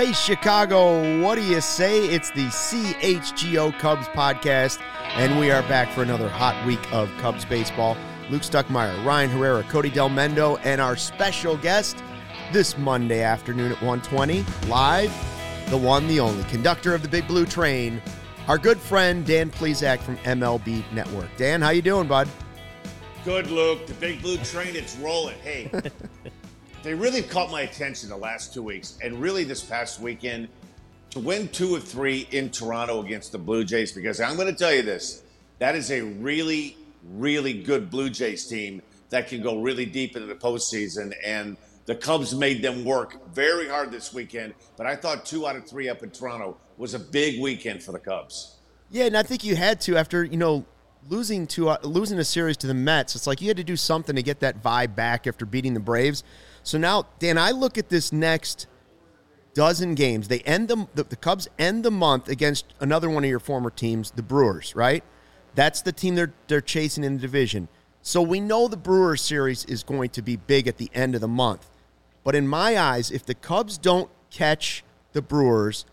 Hey, Chicago, what do you say? It's the CHGO Cubs podcast, and we are back for another hot week of Cubs baseball. Luke Stuckmeyer, Ryan Herrera, Cody Del Mendo, and our special guest this Monday afternoon at 1:20, live, the one, the only, conductor of the Big Blue Train, our good friend Dan Plesac from MLB Network. Dan, how you doing, bud? Good, Luke. The Big Blue Train, it's rolling. Hey, they really caught my attention the last 2 weeks, and really this past weekend, to win 2 of 3 in Toronto against the Blue Jays, because I'm going to tell you this, that is a really, really good Blue Jays team that can go really deep into the postseason, and the Cubs made them work very hard this weekend, but I thought 2 out of 3 up in Toronto was a big weekend for the Cubs. Yeah, and I think you had to after, losing a series to the Mets. It's like you had to do something to get that vibe back after beating the Braves. So now, Dan, I look at this next dozen games. They end the Cubs end the month against another one of your former teams, the Brewers, right? That's the team they're chasing in the division. So we know the Brewers series is going to be big at the end of the month. But in my eyes, if the Cubs don't catch the Brewers,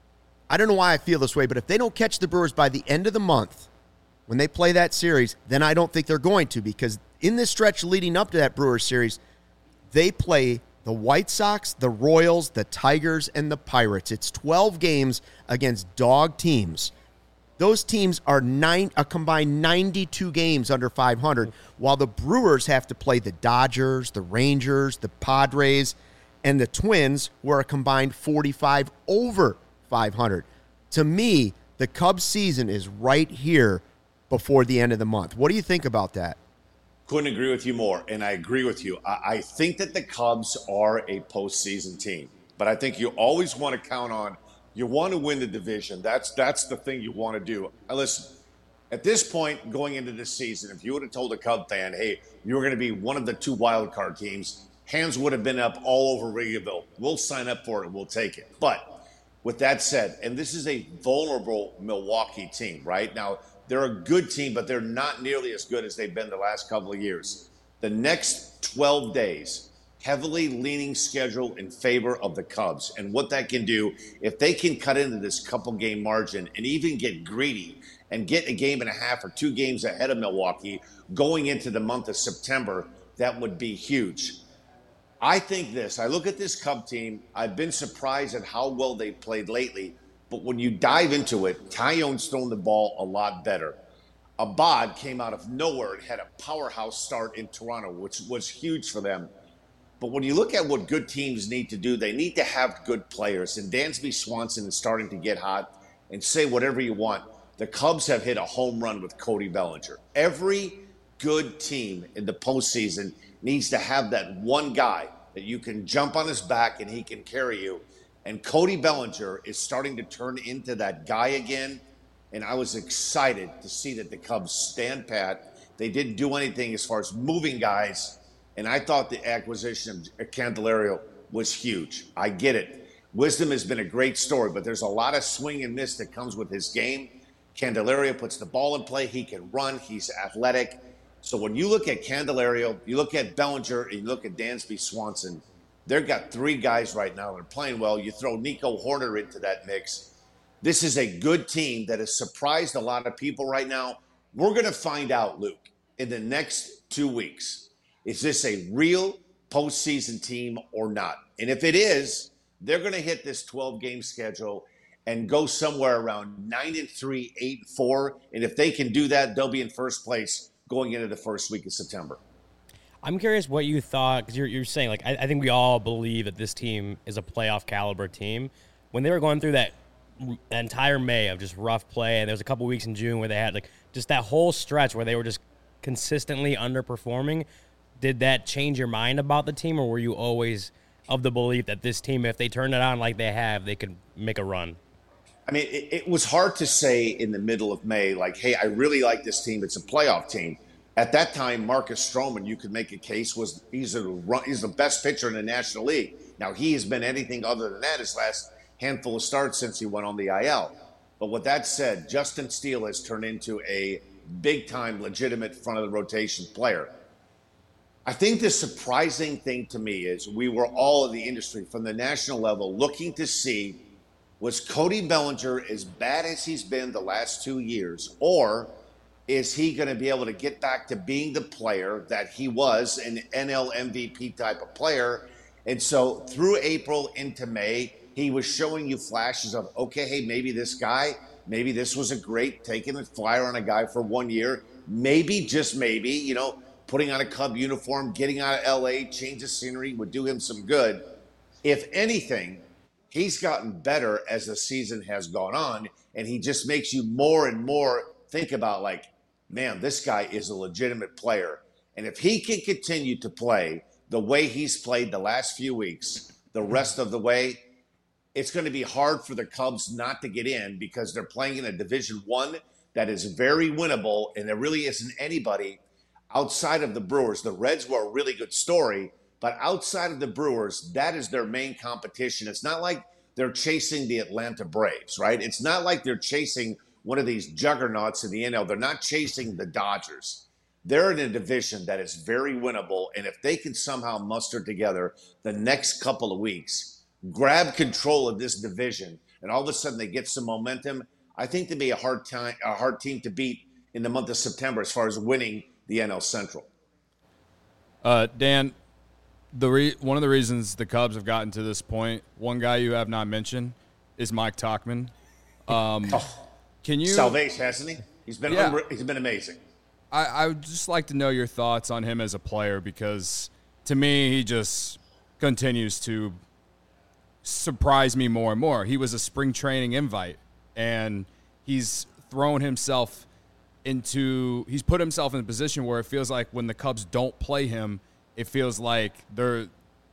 I don't know why I feel this way, but if they don't catch the Brewers by the end of the month, when they play that series, then I don't think they're going to, because in this stretch leading up to that Brewers series, they play the White Sox, the Royals, the Tigers, and the Pirates. It's 12 games against dog teams. Those teams are a combined 92 games under 500, while the Brewers have to play the Dodgers, the Rangers, the Padres, and the Twins, who are a combined 45 over 500. To me, the Cubs season is right here before the end of the month. What do you think about that? Couldn't agree with you more, and I agree with you. I think that the Cubs are a postseason team, but I think you always want to count on, you want to win the division. That's the thing you want to do. Now listen, at this point going into this season, if you would have told a Cub fan, hey, you're going to be one of the 2 wild card teams, hands would have been up all over Wrigleyville. We'll sign up for it. We'll take it. But with that said, and this is a vulnerable Milwaukee team, right? Now, they're a good team, but they're not nearly as good as they've been the last couple of years. The next 12 days, heavily leaning schedule in favor of the Cubs. And what that can do, if they can cut into this couple-game margin and even get greedy and get a game and a half or 2 games ahead of Milwaukee going into the month of September, that would be huge. I think this. I look at this Cub team. I've been surprised at how well they've played lately. But when you dive into it, Taillon's thrown the ball a lot better. Abad came out of nowhere and had a powerhouse start in Toronto, which was huge for them. But when you look at what good teams need to do, they need to have good players. And Dansby Swanson is starting to get hot. And say whatever you want, the Cubs have hit a home run with Cody Bellinger. Every good team in the postseason needs to have that one guy that you can jump on his back and he can carry you. And Cody Bellinger is starting to turn into that guy again. And I was excited to see that the Cubs stand pat. They didn't do anything as far as moving guys. And I thought the acquisition of Candelario was huge. I get it. Wisdom has been a great story, but there's a lot of swing and miss that comes with his game. Candelario puts the ball in play. He can run. He's athletic. So when you look at Candelario, you look at Bellinger, and you look at Dansby Swanson, they've got 3 guys right now that are playing well. You throw Nico Horner into that mix. This is a good team that has surprised a lot of people right now. We're going to find out, Luke, in the next 2 weeks. Is this a real postseason team or not? And if it is, they're going to hit this 12-game schedule and go somewhere around 9-3, 8-4. And if they can do that, they'll be in first place going into the first week of September. I'm curious what you thought, because you're saying, like, I think we all believe that this team is a playoff caliber team. When they were going through that entire May of just rough play, and there was a couple weeks in June where they had, like, just that whole stretch where they were just consistently underperforming, did that change your mind about the team, or were you always of the belief that this team, if they turn it on like they have, they could make a run? I mean, it was hard to say in the middle of May, like, hey, I really like this team. It's a playoff team. At that time, Marcus Stroman, you could make a case, he's the best pitcher in the National League. Now, he has been anything other than that his last handful of starts since he went on the IL. But with that said, Justin Steele has turned into a big-time, legitimate front-of-the-rotation player. I think the surprising thing to me is we were all in the industry from the national level looking to see, was Cody Bellinger as bad as he's been the last 2 years, or is he going to be able to get back to being the player that he was, an NL MVP type of player? And so through April into May, he was showing you flashes of, okay, hey, maybe this guy, maybe this was a great taking a flyer on a guy for 1 year. Maybe, just maybe, putting on a Cub uniform, getting out of LA, change of scenery would do him some good. If anything, he's gotten better as the season has gone on, and he just makes you more and more think about, like, man, this guy is a legitimate player. And if he can continue to play the way he's played the last few weeks, the rest of the way, it's going to be hard for the Cubs not to get in, because they're playing in a Division I that is very winnable, and there really isn't anybody outside of the Brewers. The Reds were a really good story, but outside of the Brewers, that is their main competition. It's not like they're chasing the Atlanta Braves, right? It's not like they're chasing one of these juggernauts in the NL. They're not chasing the Dodgers. They're in a division that is very winnable, and if they can somehow muster together the next couple of weeks, grab control of this division, and all of a sudden they get some momentum, I think they'd be a hard team to beat in the month of September as far as winning the NL Central. Dan, one of the reasons the Cubs have gotten to this point, one guy you have not mentioned is Mike Tauchman. Can you salvation, hasn't he? He's been amazing. I would just like to know your thoughts on him as a player, because to me he just continues to surprise me more and more. He was a spring training invite, and he's put himself in a position where it feels like when the Cubs don't play him, it feels like they're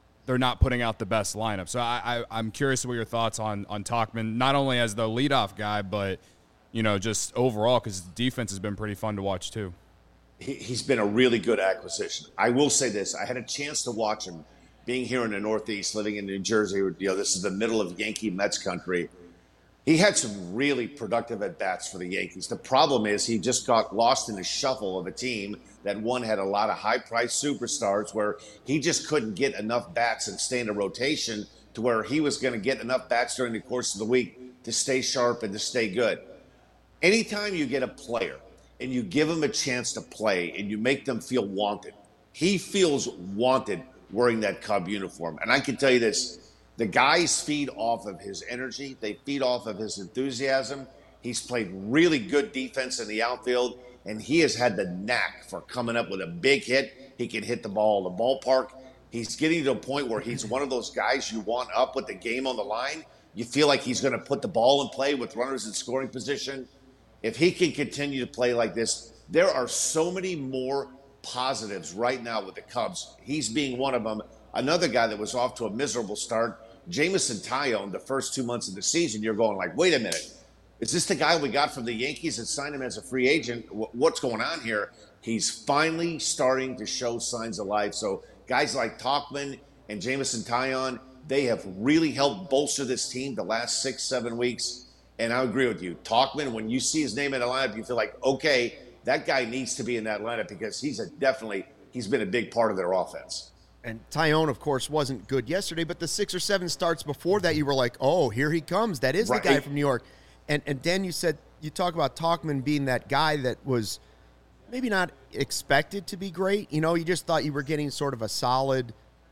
not putting out the best lineup. So I'm curious what your thoughts on Tauchman, not only as the leadoff guy, but just overall, because the defense has been pretty fun to watch too. He's been a really good acquisition. I will say this: I had a chance to watch him, being here in the Northeast, living in New Jersey. This is the middle of Yankee Mets country. He had some really productive at-bats for the Yankees. The problem is he just got lost in the shuffle of a team that had a lot of high-priced superstars, where he just couldn't get enough bats and stay in a rotation to where he was going to get enough bats during the course of the week to stay sharp and to stay good. Anytime you get a player and you give them a chance to play and you make them feel wanted, he feels wanted wearing that Cub uniform. And I can tell you this: the guys feed off of his energy. They feed off of his enthusiasm. He's played really good defense in the outfield, and he has had the knack for coming up with a big hit. He can hit the ball in the ballpark. He's getting to a point where he's one of those guys you want up with the game on the line. You feel like he's going to put the ball in play with runners in scoring position. If he can continue to play like this, there are so many more positives right now with the Cubs. He's being one of them. Another guy that was off to a miserable start, Jameson Taillon, the first 2 months of the season, you're going like, wait a minute. Is this the guy we got from the Yankees and signed him as a free agent? What's going on here? He's finally starting to show signs of life. So guys like Tauchman and Jameson Taillon, they have really helped bolster this team the last 6-7 weeks. And I agree with you. Tauchman, when you see his name in the lineup, you feel like, okay, that guy needs to be in that lineup, because he's been a big part of their offense. And Taillon, of course, wasn't good yesterday, but the 6 or 7 starts before that, you were like, oh, here he comes. That is the guy from New York. And Dan, you talk about Tauchman being that guy that was maybe not expected to be great. You just thought you were getting sort of a solid,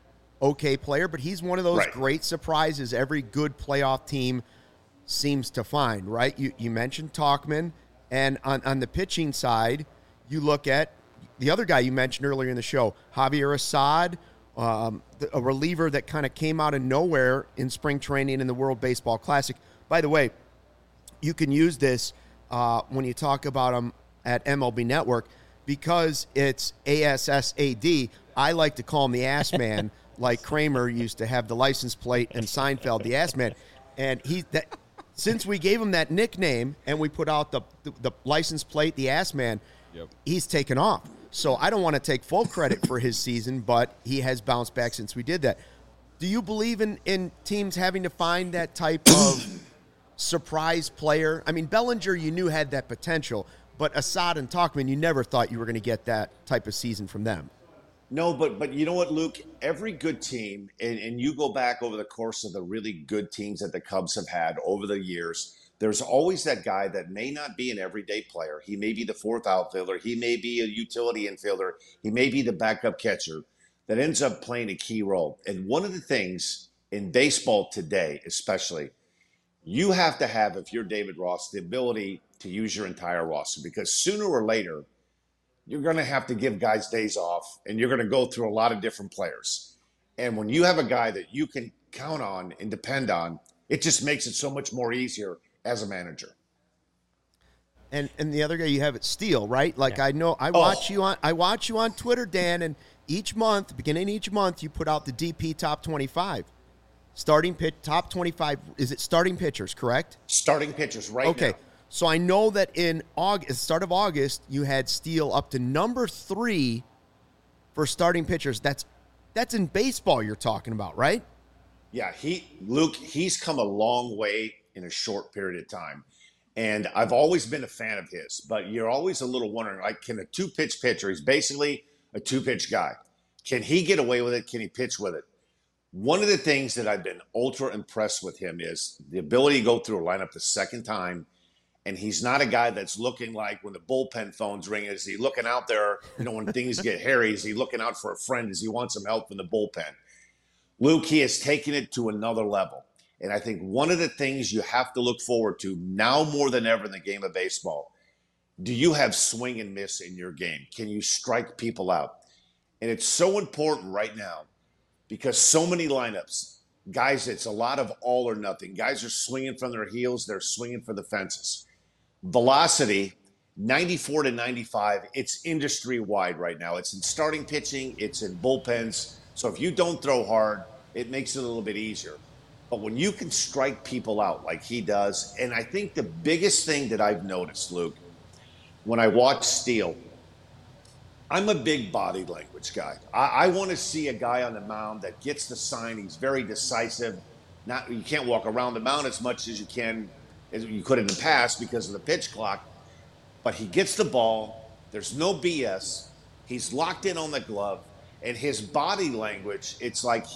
okay player, but he's one of those great surprises every good playoff team seems to find, right? You mentioned Tauchman, and on the pitching side, you look at the other guy you mentioned earlier in the show, Javier Assad, a reliever that kind of came out of nowhere in spring training in the World Baseball Classic. By the way, you can use this when you talk about him at MLB Network, because it's ASSAD. I like to call him the Ass Man, like Kramer used to have the license plate and Seinfeld, the Ass Man. And since we gave him that nickname and we put out the license plate, the Ass Man, he's taken off. So I don't want to take full credit for his season, but he has bounced back since we did that. Do you believe in teams having to find that type of surprise player? I mean, Bellinger, you knew had that potential, but Assad and Tauchman, you never thought you were going to get that type of season from them. No, but you know what, Luke? Every good team, and you go back over the course of the really good teams that the Cubs have had over the years, there's always that guy that may not be an everyday player. He may be the fourth outfielder. He may be a utility infielder. He may be the backup catcher that ends up playing a key role. And one of the things in baseball today, especially, you have to have, if you're David Ross, the ability to use your entire roster because sooner or later, you're going to have to give guys days off and you're going to go through a lot of different players. And when you have a guy that you can count on and depend on, it just makes it so much more easier as a manager. And the other guy you have it Steele, right? Like I know I watch you on Twitter, Dan, and each month, beginning of each month, you put out the DP top 25. Starting pitch top 25. Is it starting pitchers, correct? Starting pitchers right now. Okay. So I know that in August, start of August, you had Steele up to number 3 for starting pitchers. That's in baseball you're talking about, right? Yeah, he's come a long way in a short period of time. And I've always been a fan of his, but you're always a little wondering, like, can a 2-pitch pitcher, he's basically a 2-pitch guy. Can he get away with it? Can he pitch with it? One of the things that I've been ultra impressed with him is the ability to go through a lineup the second time. And he's not a guy that's looking like when the bullpen phone's ringing, is he looking out there, when things get hairy, is he looking out for a friend? Does he want some help from the bullpen? Luke, he has taken it to another level. And I think one of the things you have to look forward to now more than ever in the game of baseball, do you have swing and miss in your game? Can you strike people out? And it's so important right now because so many lineups, guys, it's a lot of all or nothing. Guys are swinging from their heels. They're swinging for the fences. Velocity, 94 to 95, it's industry-wide right now. It's in starting pitching. It's in bullpens. So if you don't throw hard, it makes it a little bit easier. But when you can strike people out like he does, and I think the biggest thing that I've noticed, Luke, when I watch Steele, I'm a big body language guy. I want to see a guy on the mound that gets the sign. He's very decisive. You can't walk around the mound as much as you could in the past because of the pitch clock. But he gets the ball. There's no BS. He's locked in on the glove. And his body language, it's like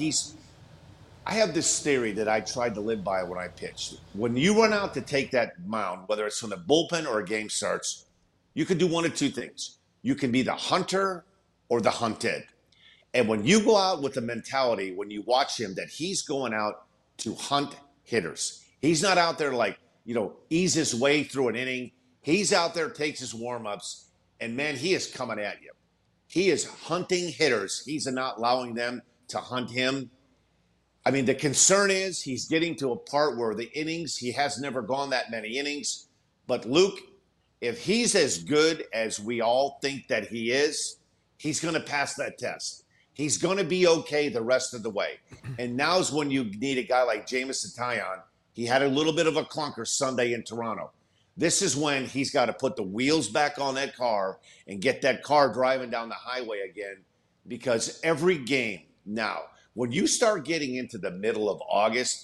I have this theory that I tried to live by when I pitched. When you run out to take that mound, whether it's from the bullpen or a game starts, you can do one of two things. You can be the hunter or the hunted. And when you go out with the mentality, when you watch him, that he's going out to hunt hitters. He's not out there like, ease his way through an inning. He's out there, takes his warm-ups, and, man, he is coming at you. He is hunting hitters. He's not allowing them to hunt him. I mean, the concern is he's getting to a part where the innings, he has never gone that many innings. But, Luke, if he's as good as we all think that he is, he's going to pass that test. He's going to be okay the rest of the way. And now's when you need a guy like Jameson Taillon. He had a little bit of a clunker Sunday in Toronto. This is when he's got to put the wheels back on that car and get that car driving down the highway again, because every game now, when you start getting into the middle of August,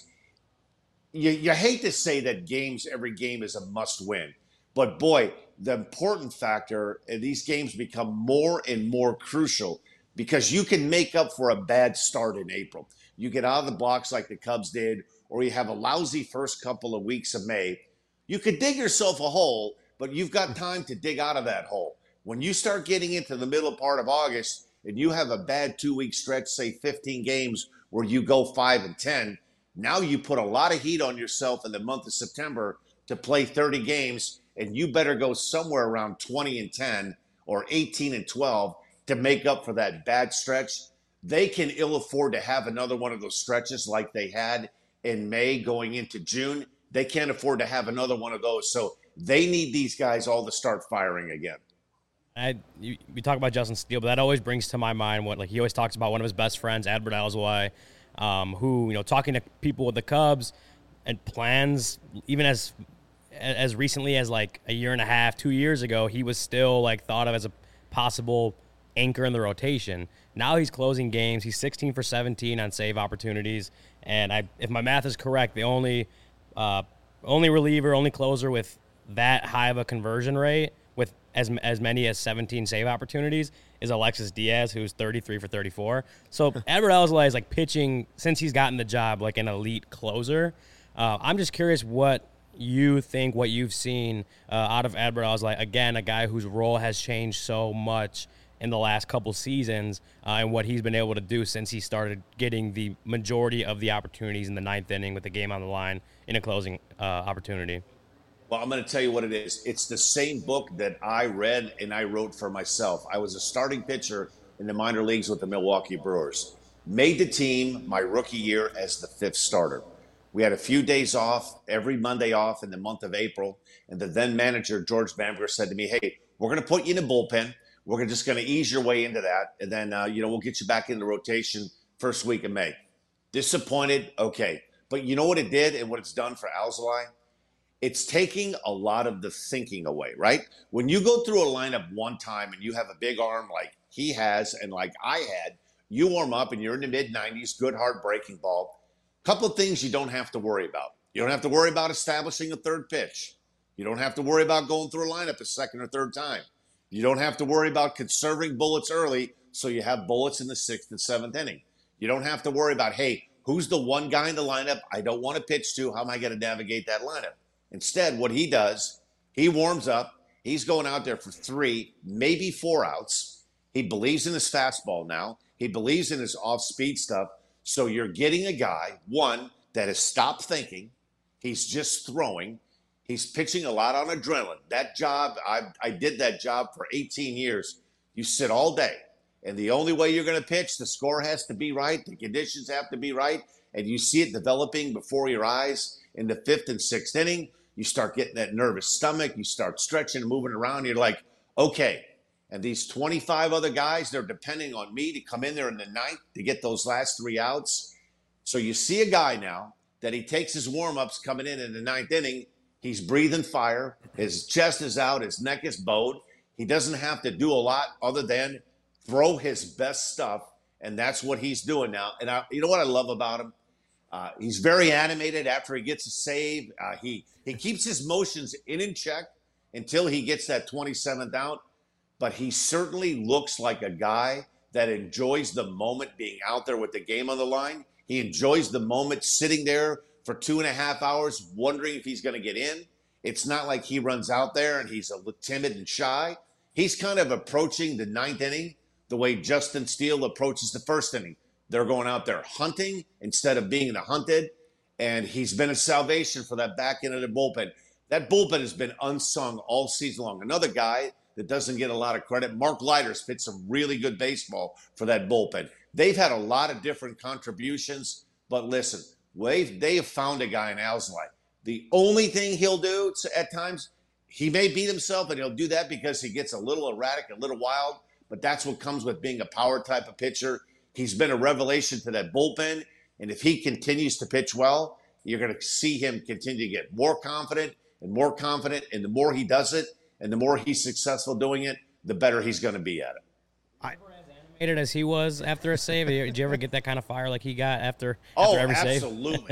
you hate to say that every game is a must win. But, boy, the important factor, these games become more and more crucial because you can make up for a bad start in April. You get out of the blocks like the Cubs did, or you have a lousy first couple of weeks of May. You could dig yourself a hole, but you've got time to dig out of that hole. When you start getting into the middle part of August and you have a bad 2-week stretch, say 15 games where you go 5-10, now you put a lot of heat on yourself in the month of September to play 30 games, and you better go somewhere around 20-10 or 18-12 to make up for that bad stretch. They can ill afford to have another one of those stretches like they had in May going into June. They can't afford to have another one of those. So they need these guys all to start firing again. We talk about Justin Steele, but that always brings to my mind he always talks about one of his best friends, Adbert Alzolay, who, talking to people with the Cubs and plans, even as recently as like a year and a half, 2 years ago, he was still thought of as a possible anchor in the rotation. Now he's closing games. He's 16 for 17 on save opportunities. And if my math is correct, the only reliever, only closer with that high of a conversion rate with as many as 17 save opportunities is Alexis Diaz, who's 33 for 34. So Edward Alzolay is like pitching since he's gotten the job like an elite closer. I'm just curious what you think, what you've seen out of Edward Alzolay. Again, a guy whose role has changed so much in the last couple seasons, and what he's been able to do since he started getting the majority of the opportunities in the ninth inning with the game on the line in a closing opportunity. Well, I'm going to tell you what it is. It's the same book that I read and I wrote for myself. I was a starting pitcher in the minor leagues with the Milwaukee Brewers. Made the team my rookie year as the fifth starter. We had a few days off, every Monday off in the month of April. And the then manager, George Bamber, said to me, hey, we're going to put you in the bullpen. We're just going to ease your way into that. And then, we'll get you back into rotation first week of May. Disappointed? Okay. But you know what it did and what it's done for Alzolay? It's taking a lot of the thinking away, right? When you go through a lineup one time and you have a big arm like he has and like I had, you warm up and you're in the mid-90s, good hard breaking ball. Couple of things you don't have to worry about. You don't have to worry about establishing a third pitch. You don't have to worry about going through a lineup a second or third time. You don't have to worry about conserving bullets early so you have bullets in the sixth and seventh inning. You don't have to worry about, hey, who's the one guy in the lineup I don't want to pitch to? How am I going to navigate that lineup? Instead, what he does, he warms up. He's going out there for 3, maybe 4 outs. He believes in his fastball now. He believes in his off-speed stuff. So you're getting a guy, one, that has stopped thinking. He's just throwing. He's pitching a lot on adrenaline. That job, I did that job for 18 years. You sit all day. And the only way you're going to pitch, the score has to be right. The conditions have to be right. And you see it developing before your eyes in the fifth and sixth inning. You start getting that nervous stomach. You start stretching and moving around. You're like, okay. And these 25 other guys, they're depending on me to come in there in the ninth to get those last 3 outs. So you see a guy now that he takes his warm-ups coming in the ninth inning. He's breathing fire. His chest is out. His neck is bowed. He doesn't have to do a lot other than throw his best stuff, and that's what he's doing now. And you know what I love about him? He's very animated after he gets a save. He keeps his motions in check until he gets that 27th out. But he certainly looks like a guy that enjoys the moment being out there with the game on the line. He enjoys the moment sitting there for 2.5 hours wondering if he's going to get in. It's not like he runs out there and he's a little timid and shy. He's kind of approaching the ninth inning the way Justin Steele approaches the first inning. They're going out there hunting instead of being the hunted. And he's been a salvation for that back end of the bullpen. That bullpen has been unsung all season long. Another guy that doesn't get a lot of credit, Mark Leiter's pitched some really good baseball for that bullpen. They've had a lot of different contributions, but listen, they have found a guy in Alzolay. The only thing he'll do at times, he may beat himself, and he'll do that because he gets a little erratic, a little wild, but that's what comes with being a power type of pitcher. He's been a revelation to that bullpen, and if he continues to pitch well, you're going to see him continue to get more confident, and the more he does it, and the more he's successful doing it, the better he's going to be at it. As animated as he was after a save, did you ever get that kind of fire like he got after every save? Oh, absolutely.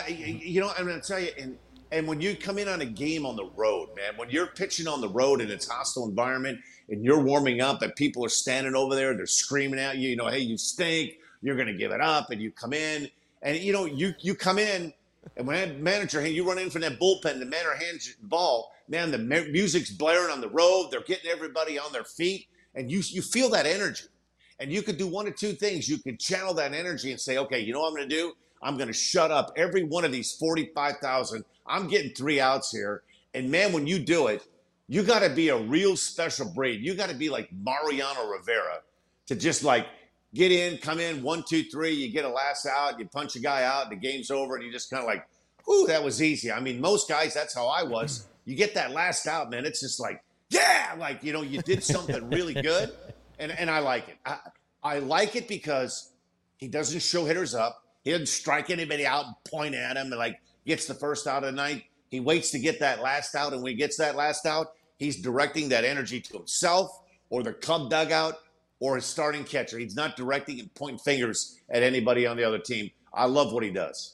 I'm going to tell you, and when you come in on a game on the road, man, when you're pitching on the road and it's a hostile environment and you're warming up and people are standing over there, they're screaming at you, hey, you stink, you're going to give it up, and you come in, and, you come in, and when that manager, you run in from that bullpen, the manager hands you the ball, man, the music's blaring on the road, they're getting everybody on their feet, and you feel that energy. And you could do one of two things. You could channel that energy and say, okay, you know what I'm going to do? I'm going to shut up every one of these 45,000. I'm getting 3 outs here. And, man, when you do it, you got to be a real special breed. You got to be like Mariano Rivera to just, get in, come in, 1, 2, 3, you get a last out, you punch a guy out, the game's over, and you just kind of like, whew, that was easy. I mean, most guys, that's how I was. You get that last out, man, it's just like, yeah, you did something really good. And I like it. I like it because he doesn't show hitters up. He doesn't strike anybody out and point at him and gets the first out of the night. He waits to get that last out, and when he gets that last out, he's directing that energy to himself or the Cub dugout or his starting catcher. He's not directing and pointing fingers at anybody on the other team. I love what he does.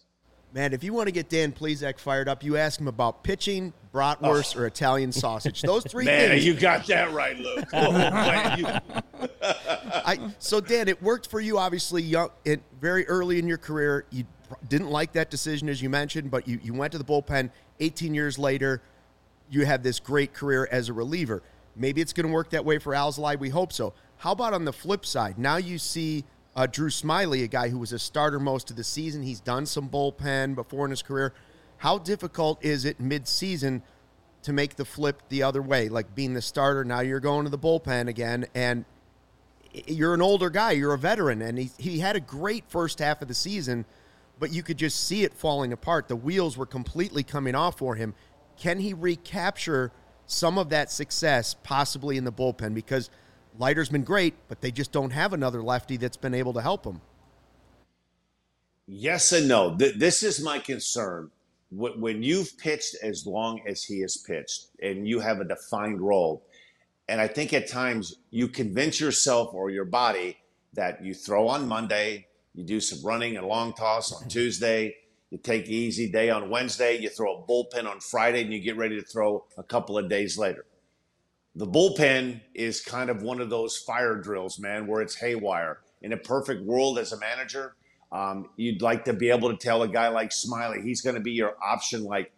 Man, if you want to get Dan Plesac fired up, you ask him about pitching, bratwurst, or Italian sausage. Those three Man, things. you got that right, Luke. Oh, man, So, Dan, it worked for you, obviously, very early in your career. You didn't like that decision, as you mentioned, but you went to the bullpen. 18 years later, you have this great career as a reliever. Maybe it's going to work that way for Alzolay. We hope so. How about on the flip side? Now you see Drew Smyly, a guy who was a starter most of the season. He's done some bullpen before in his career. How difficult is it mid-season to make the flip the other way? Like being the starter, now you're going to the bullpen again, and you're an older guy. You're a veteran, and he had a great first half of the season, but you could just see it falling apart. The wheels were completely coming off for him. Can he recapture some of that success possibly in the bullpen? Because Leiter's been great, but they just don't have another lefty that's been able to help him. Yes and no. This is my concern. When you've pitched as long as he has pitched and you have a defined role, and I think at times you convince yourself or your body that you throw on Monday, you do some running and long toss on Tuesday, you take the easy day on Wednesday, you throw a bullpen on Friday, and you get ready to throw a couple of days later. The bullpen is kind of one of those fire drills, man, where it's haywire. In a perfect world as a manager, you'd like to be able to tell a guy like Smyly, he's going to be your option, like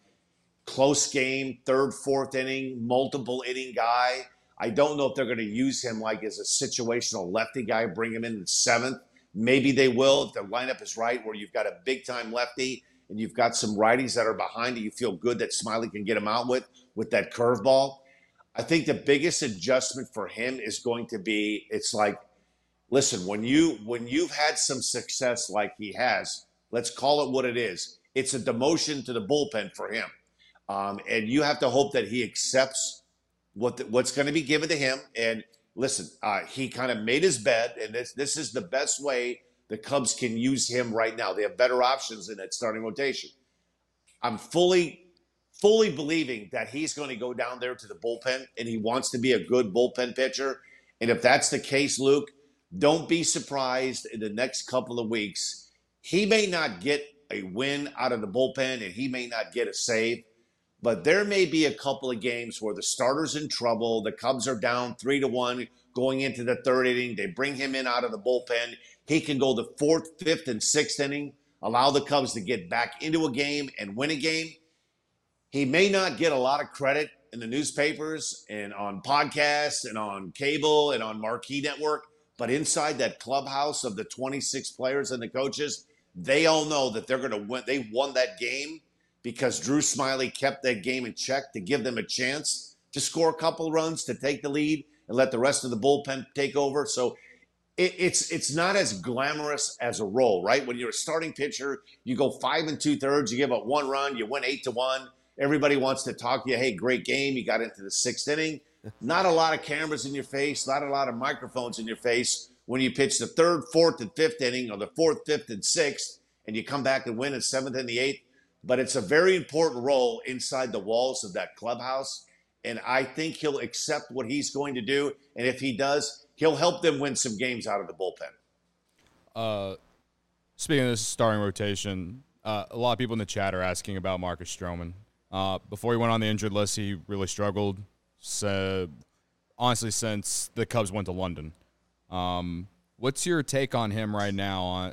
close game, third, fourth inning, multiple inning guy. I don't know if they're going to use him like as a situational lefty guy, bring him in the seventh. Maybe they will if the lineup is right, where you've got a big-time lefty and you've got some righties that are behind it. You feel good that Smyly can get him out with that curveball. I think the biggest adjustment for him is going to be, it's like, listen, when you've had some success like he has, let's call it what it is. It's a demotion to the bullpen for him. And you have to hope that he accepts what's going to be given to him. And listen, he kind of made his bed, and this is the best way the Cubs can use him right now. They have better options in that starting rotation. I'm fully believing that he's going to go down there to the bullpen, and he wants to be a good bullpen pitcher. And if that's the case, Luke, don't be surprised in the next couple of weeks. He may not get a win out of the bullpen, and he may not get a save, but there may be a couple of games where the starter's in trouble. The Cubs are down 3-1 going into the third inning. They bring him in out of the bullpen. He can go the fourth, fifth, and sixth inning, allow the Cubs to get back into a game and win a game. He may not get a lot of credit in the newspapers and on podcasts and on cable and on Marquee Network, but inside that clubhouse of the 26 players and the coaches, they all know that they're going to win. They won that game because Drew Smyly kept that game in check to give them a chance to score a couple runs, to take the lead, and let the rest of the bullpen take over. So it's not as glamorous as a role, right? When you're a starting pitcher, you go 5 2/3, you give up 1 run, you win 8-1. Everybody wants to talk to you. Hey, great game. You got into the sixth inning. Not a lot of cameras in your face, not a lot of microphones in your face when you pitch the third, fourth, and fifth inning, or the fourth, fifth, and sixth, and you come back and win the seventh and the eighth. But it's a very important role inside the walls of that clubhouse, and I think he'll accept what he's going to do. And if he does, he'll help them win some games out of the bullpen. Speaking of this starting rotation, a lot of people in the chat are asking about Marcus Stroman. Before he went on the injured list, he really struggled. So, honestly, since the Cubs went to London, what's your take on him right now?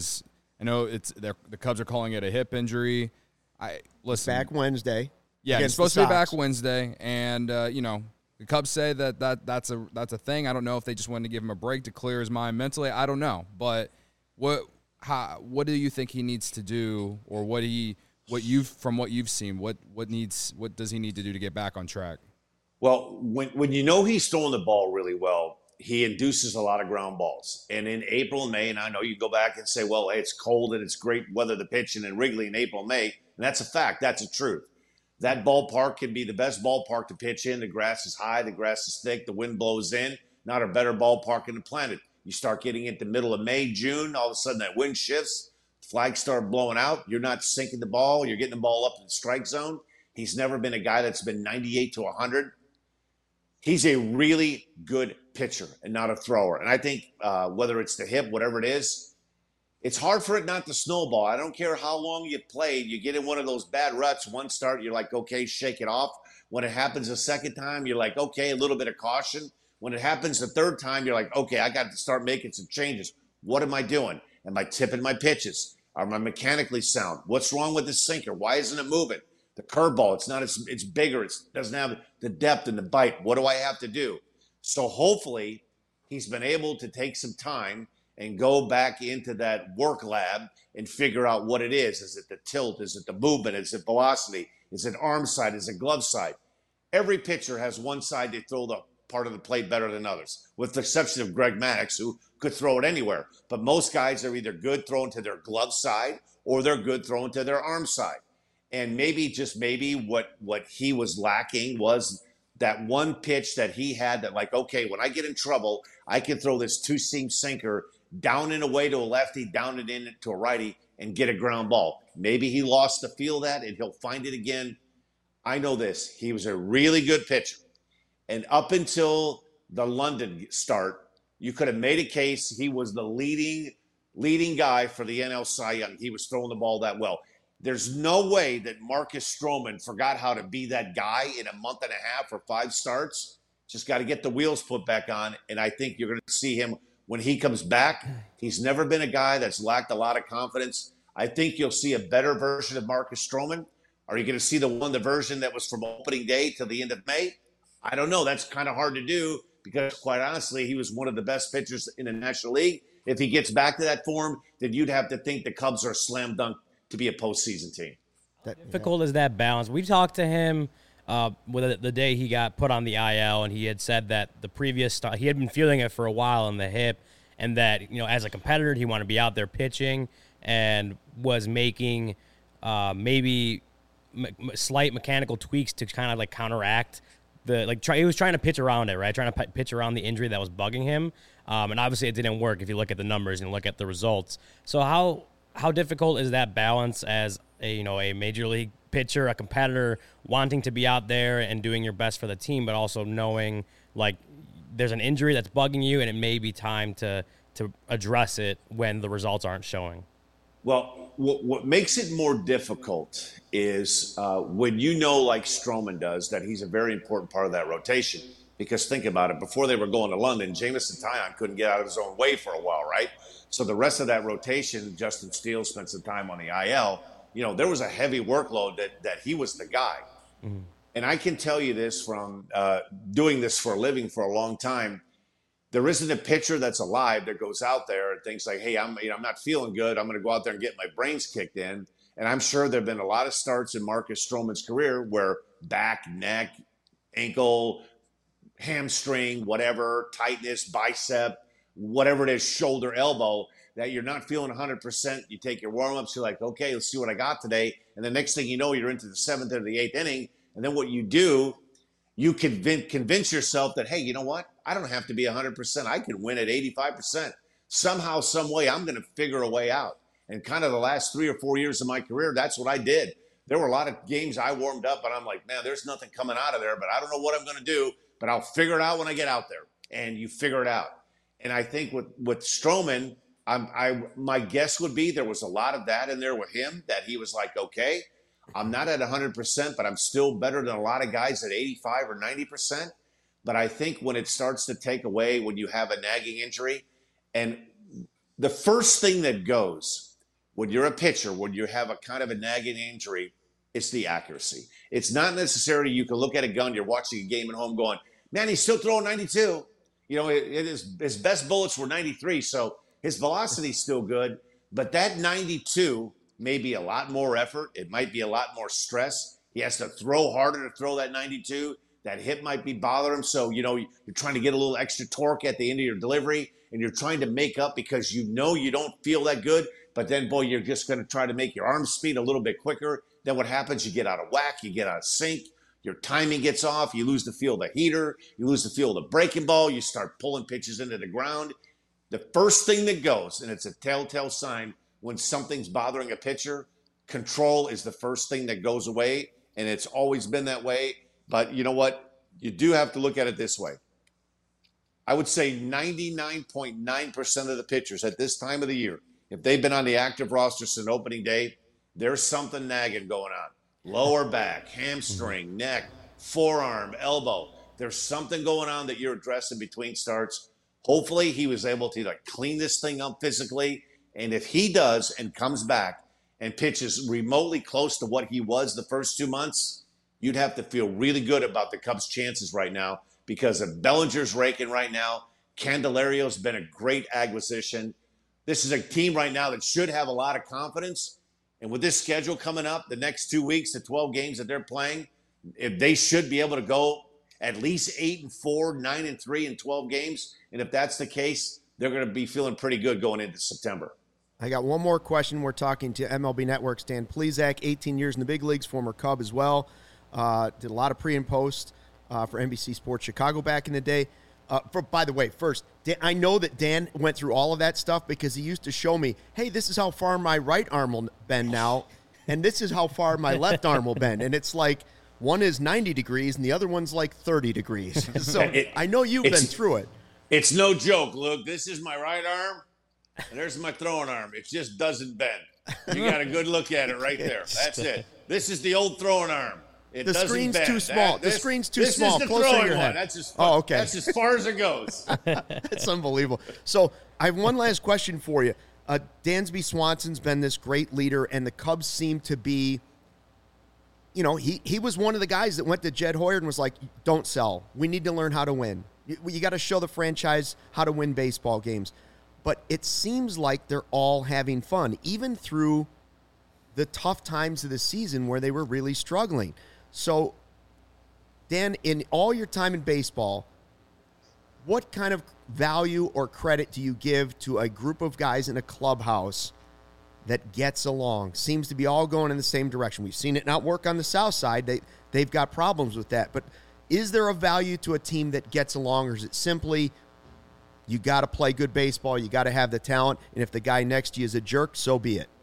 I know the Cubs are calling it a hip injury. Listen, Back Wednesday. Yeah, he's supposed to be back Wednesday, and the Cubs say that's a thing. I don't know if they just wanted to give him a break to clear his mind mentally. I don't know, but what do you think he needs to do, or what you've seen, what does he need to do to get back on track? Well, when you know he's throwing the ball really well, he induces a lot of ground balls. And in April and May, and I know you go back and say, well, hey, it's cold and it's great weather to pitch in Wrigley in April and May, and that's a fact. That's a truth. That ballpark can be the best ballpark to pitch in. The grass is high, the grass is thick, the wind blows in. Not a better ballpark in the planet. You start getting into the middle of May, June, all of a sudden that wind shifts, flags start blowing out. You're not sinking the ball. You're getting the ball up in the strike zone. He's never been a guy that's been 98 to 100. He's a really good pitcher and not a thrower. And I think whether it's the hip, whatever it is, it's hard for it not to snowball. I don't care how long you played. You get in one of those bad ruts. One start, you're like, okay, shake it off. When it happens a second time, you're like, okay, a little bit of caution. When it happens the third time, you're like, okay, I got to start making some changes. What am I doing? Am I tipping my pitches? Am I mechanically sound? What's wrong with the sinker? Why isn't it moving? The curveball, it's bigger. It doesn't have the depth and the bite. What do I have to do? So hopefully he's been able to take some time and go back into that work lab and figure out what it is. Is it the tilt? Is it the movement? Is it velocity? Is it arm side? Is it glove side? Every pitcher has one side they throw the part of the plate better than others, with the exception of Greg Maddux, who could throw it anywhere. But most guys are either good throwing to their glove side or they're good throwing to their arm side. And maybe, just maybe, what he was lacking was that one pitch that he had that, like, okay, when I get in trouble, I can throw this two-seam sinker down and away to a lefty, down and in to a righty, and get a ground ball. Maybe he lost the feel of that, and he'll find it again. I know this. He was a really good pitcher. And up until the London start, you could have made a case he was the leading guy for the NL Cy Young. He was throwing the ball that well. There's no way that Marcus Stroman forgot how to be that guy in a month and a half or 5 starts. Just got to get the wheels put back on, and I think you're going to see him when he comes back. He's never been a guy that's lacked a lot of confidence. I think you'll see a better version of Marcus Stroman. Are you going to see the version that was from opening day to the end of May? I don't know. That's kind of hard to do because, quite honestly, he was one of the best pitchers in the National League. If he gets back to that form, then you'd have to think the Cubs are a slam dunk to be a postseason team. Difficult is that balance. We've talked to him with the day he got put on the IL, and he had said that the previous start, he had been feeling it for a while in the hip, and that, as a competitor, he wanted to be out there pitching and was making maybe slight mechanical tweaks to kind of like counteract he was trying to pitch around it, right? Trying to pitch around the injury that was bugging him. And obviously it didn't work if you look at the numbers and look at the results. So how difficult is that balance as a major league pitcher, a competitor, wanting to be out there and doing your best for the team, but also knowing like there's an injury that's bugging you and it may be time to address it when the results aren't showing? Well, what makes it more difficult is when like Stroman does, that he's a very important part of that rotation. Because think about it, before they were going to London, Jameson Taillon couldn't get out of his own way for a while, right? So the rest of that rotation, Justin Steele spent some time on the IL. There was a heavy workload that he was the guy. Mm-hmm. And I can tell you this from doing this for a living for a long time. There isn't a pitcher that's alive that goes out there and thinks like, hey, I'm not feeling good. I'm going to go out there and get my brains kicked in. And I'm sure there have been a lot of starts in Marcus Stroman's career where back, neck, ankle, hamstring, whatever, tightness, bicep, whatever it is, shoulder, elbow, that you're not feeling 100%. You take your warm-ups, you're like, okay, let's see what I got today. And the next thing you know, you're into the 7th or the 8th inning. And then what you do, you convince yourself that, hey, you know what? I don't have to be 100%. I can win at 85%. Somehow, some way, I'm going to figure a way out. And kind of the last 3 or 4 years of my career, that's what I did. There were a lot of games I warmed up, and I'm like, man, there's nothing coming out of there, but I don't know what I'm going to do, but I'll figure it out when I get out there. And you figure it out. And I think with Stroman, my guess would be there was a lot of that in there with him, that he was like, okay, I'm not at 100%, but I'm still better than a lot of guys at 85 or 90%. But I think when it starts to take away, when you have a nagging injury, and the first thing that goes when you're a pitcher, when you have a kind of a nagging injury, it's the accuracy. It's not necessarily you can look at a gun, you're watching a game at home going, man, he's still throwing 92. His best bullets were 93, so his velocity's still good. But that 92 may be a lot more effort. It might be a lot more stress. He has to throw harder to throw that 92. That hip might be bothering him. So, you're trying to get a little extra torque at the end of your delivery, and you're trying to make up because you don't feel that good. But then, boy, you're just going to try to make your arm speed a little bit quicker. Then what happens? You get out of whack. You get out of sync. Your timing gets off. You lose the feel of the heater. You lose the feel of the breaking ball. You start pulling pitches into the ground. The first thing that goes, and it's a telltale sign when something's bothering a pitcher, control is the first thing that goes away, and it's always been that way. But you know what? You do have to look at it this way. I would say 99.9% of the pitchers at this time of the year, if they've been on the active roster since opening day, there's something nagging going on. Lower back, hamstring, neck, forearm, elbow. There's something going on that you're addressing between starts. Hopefully he was able to clean this thing up physically. And if he does and comes back and pitches remotely close to what he was the first 2 months, you'd have to feel really good about the Cubs' chances right now, because if Bellinger's raking right now, Candelario's been a great acquisition. This is a team right now that should have a lot of confidence. And with this schedule coming up, the next 2 weeks, the 12 games that they're playing, if they should be able to go at least 8-4, 9-3 in 12 games. And if that's the case, they're going to be feeling pretty good going into September. I got one more question. We're talking to MLB Network's Dan Plesac, 18 years in the big leagues, former Cub as well. Did a lot of pre and post for NBC Sports Chicago back in the day. By the way, first, Dan, I know that Dan went through all of that stuff because he used to show me, hey, this is how far my right arm will bend now, and this is how far my left arm will bend. And it's like one is 90 degrees and the other one's like 30 degrees. So I know you've been through it. It's no joke, Luke. This is my right arm, and there's my throwing arm. It just doesn't bend. You got a good look at it right there. That's it. This is the old throwing arm. The screen's too small. The screen's too small. This is the throwing one. That's as far as it goes. That's unbelievable. So I have one last question for you. Dansby Swanson's been this great leader, and the Cubs seem to be, he was one of the guys that went to Jed Hoyer and was like, don't sell. We need to learn how to win. You got to show the franchise how to win baseball games. But it seems like they're all having fun, even through the tough times of the season where they were really struggling. So, Dan, in all your time in baseball, what kind of value or credit do you give to a group of guys in a clubhouse that gets along, seems to be all going in the same direction? We've seen it not work on the South Side. They've got problems with that. But is there a value to a team that gets along, or is it simply you got to play good baseball, you got to have the talent, and if the guy next to you is a jerk, so be it?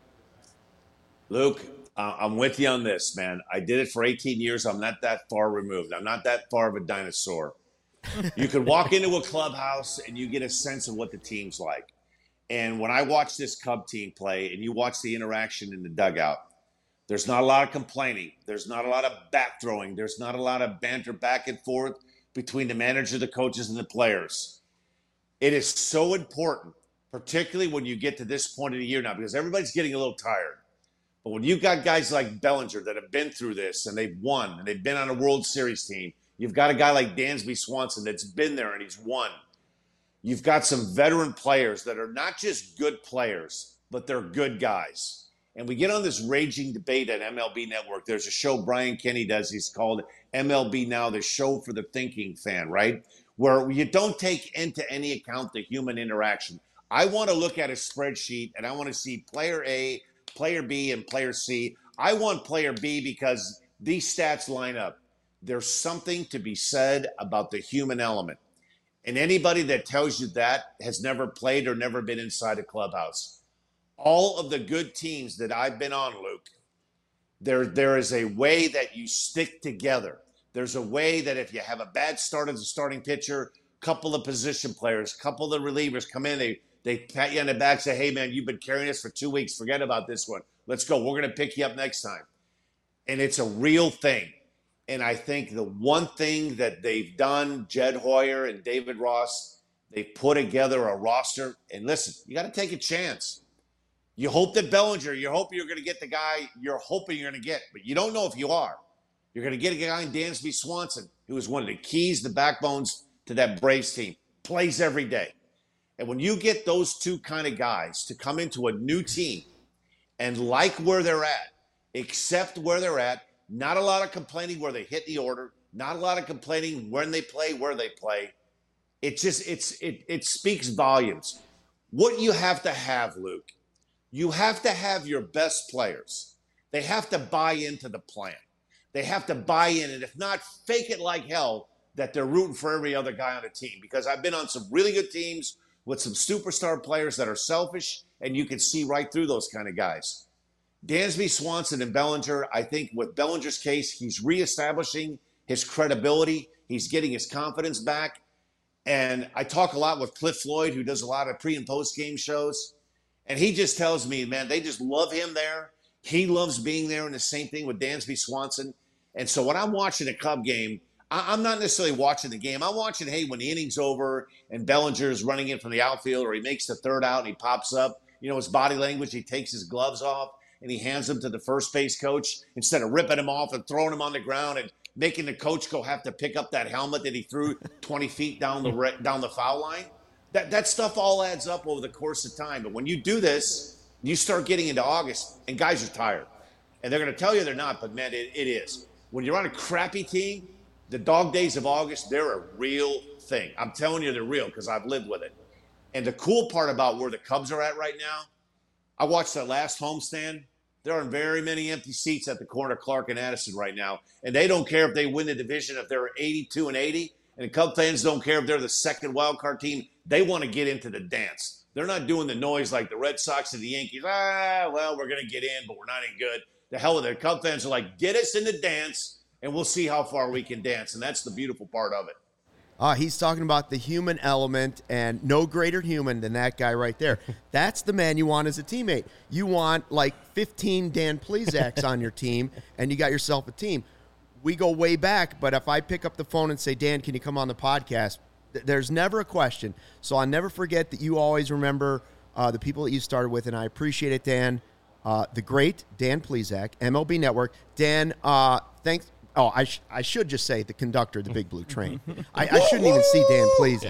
Luke, I'm with you on this, man. I did it for 18 years. I'm not that far removed. I'm not that far of a dinosaur. You could walk into a clubhouse and you get a sense of what the team's like. And when I watch this Cub team play and you watch the interaction in the dugout, there's not a lot of complaining. There's not a lot of bat throwing. There's not a lot of banter back and forth between the manager, the coaches, and the players. It is so important, particularly when you get to this point of the year now, because everybody's getting a little tired. But when you've got guys like Bellinger that have been through this and they've won and they've been on a World Series team, you've got a guy like Dansby Swanson that's been there and he's won. You've got some veteran players that are not just good players, but they're good guys. And we get on this raging debate at MLB Network. There's a show Brian Kenny does. He's called MLB Now, the show for the thinking fan, right? Where you don't take into any account the human interaction. I want to look at a spreadsheet and I want to see player A, player B, and player C. I want player B because these stats line up. There's something to be said about the human element. And anybody that tells you that has never played or never been inside a clubhouse. All of the good teams that I've been on, Luke, there is a way that you stick together. There's a way that if you have a bad start as a starting pitcher, couple of position players, couple of relievers come in, they pat you on the back, say, hey, man, you've been carrying us for 2 weeks. Forget about this one. Let's go. We're going to pick you up next time. And it's a real thing. And I think the one thing that they've done, Jed Hoyer and David Ross, they put together a roster. And listen, you got to take a chance. You hope that Bellinger, you hope you're going to get the guy you're hoping you're going to get, but you don't know if you are. You're going to get a guy in Dansby Swanson, who is one of the keys, the backbones to that Braves team, plays every day. And when you get those two kind of guys to come into a new team and like where they're at, accept where they're at, not a lot of complaining where they hit the order, not a lot of complaining when they play, where they play. It speaks volumes. What you have to have, Luke, you have to have your best players. They have to buy into the plan. They have to buy in, and if not, fake it like hell that they're rooting for every other guy on the team. Because I've been on some really good teams with some superstar players that are selfish, and you can see right through those kind of guys. Dansby Swanson and Bellinger, I think with Bellinger's case, he's reestablishing his credibility. He's getting his confidence back. And I talk a lot with Cliff Floyd, who does a lot of pre- and post-game shows. And he just tells me, man, they just love him there. He loves being there, and the same thing with Dansby Swanson. And so when I'm watching a Cub game, I'm not necessarily watching the game. I'm watching, hey, when the inning's over and Bellinger's running in from the outfield, or he makes the third out and he pops up, his body language, he takes his gloves off and he hands them to the first base coach instead of ripping him off and throwing him on the ground and making the coach go have to pick up that helmet that he threw 20 feet down the foul line. That stuff all adds up over the course of time. But when you do this, you start getting into August, and guys are tired. And they're going to tell you they're not, but, man, it is. When you're on a crappy team, the dog days of August, they're a real thing. I'm telling you they're real because I've lived with it. And the cool part about where the Cubs are at right now, I watched that last homestand. There aren't very many empty seats at the corner of Clark and Addison right now. And they don't care if they win the division, if they're 82-80. And the Cub fans don't care if they're the second wild card team. They want to get into the dance. They're not doing the noise like the Red Sox and the Yankees. Well, we're going to get in, but we're not any good. The hell with it. Cub fans are like, get us in the dance, and we'll see how far we can dance. And that's the beautiful part of it. He's talking about the human element, and no greater human than that guy right there. That's the man you want as a teammate. You want like 15 Dan Plezaks on your team, and you got yourself a team. We go way back, but if I pick up the phone and say, Dan, can you come on the podcast? There's never a question. So I'll never forget that you always remember the people that you started with, and I appreciate it, Dan. The great Dan Plezak, MLB Network. Dan, thanks. Oh, I should just say the conductor of the Big Blue Train. I shouldn't even see Dan Plezak.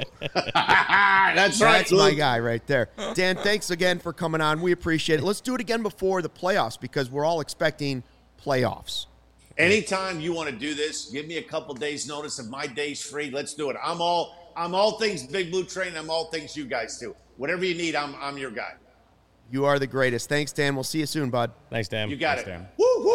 That's right. That's my guy right there. Dan, thanks again for coming on. We appreciate it. Let's do it again before the playoffs because we're all expecting playoffs. Anytime you want to do this, give me a couple days notice. If my day's free, let's do it. I'm all things Big Blue Train. I'm all things you guys too. Whatever you need, I'm your guy. You are the greatest. Thanks, Dan. We'll see you soon, bud. Thanks, Dan. You got Thanks, it. Dan.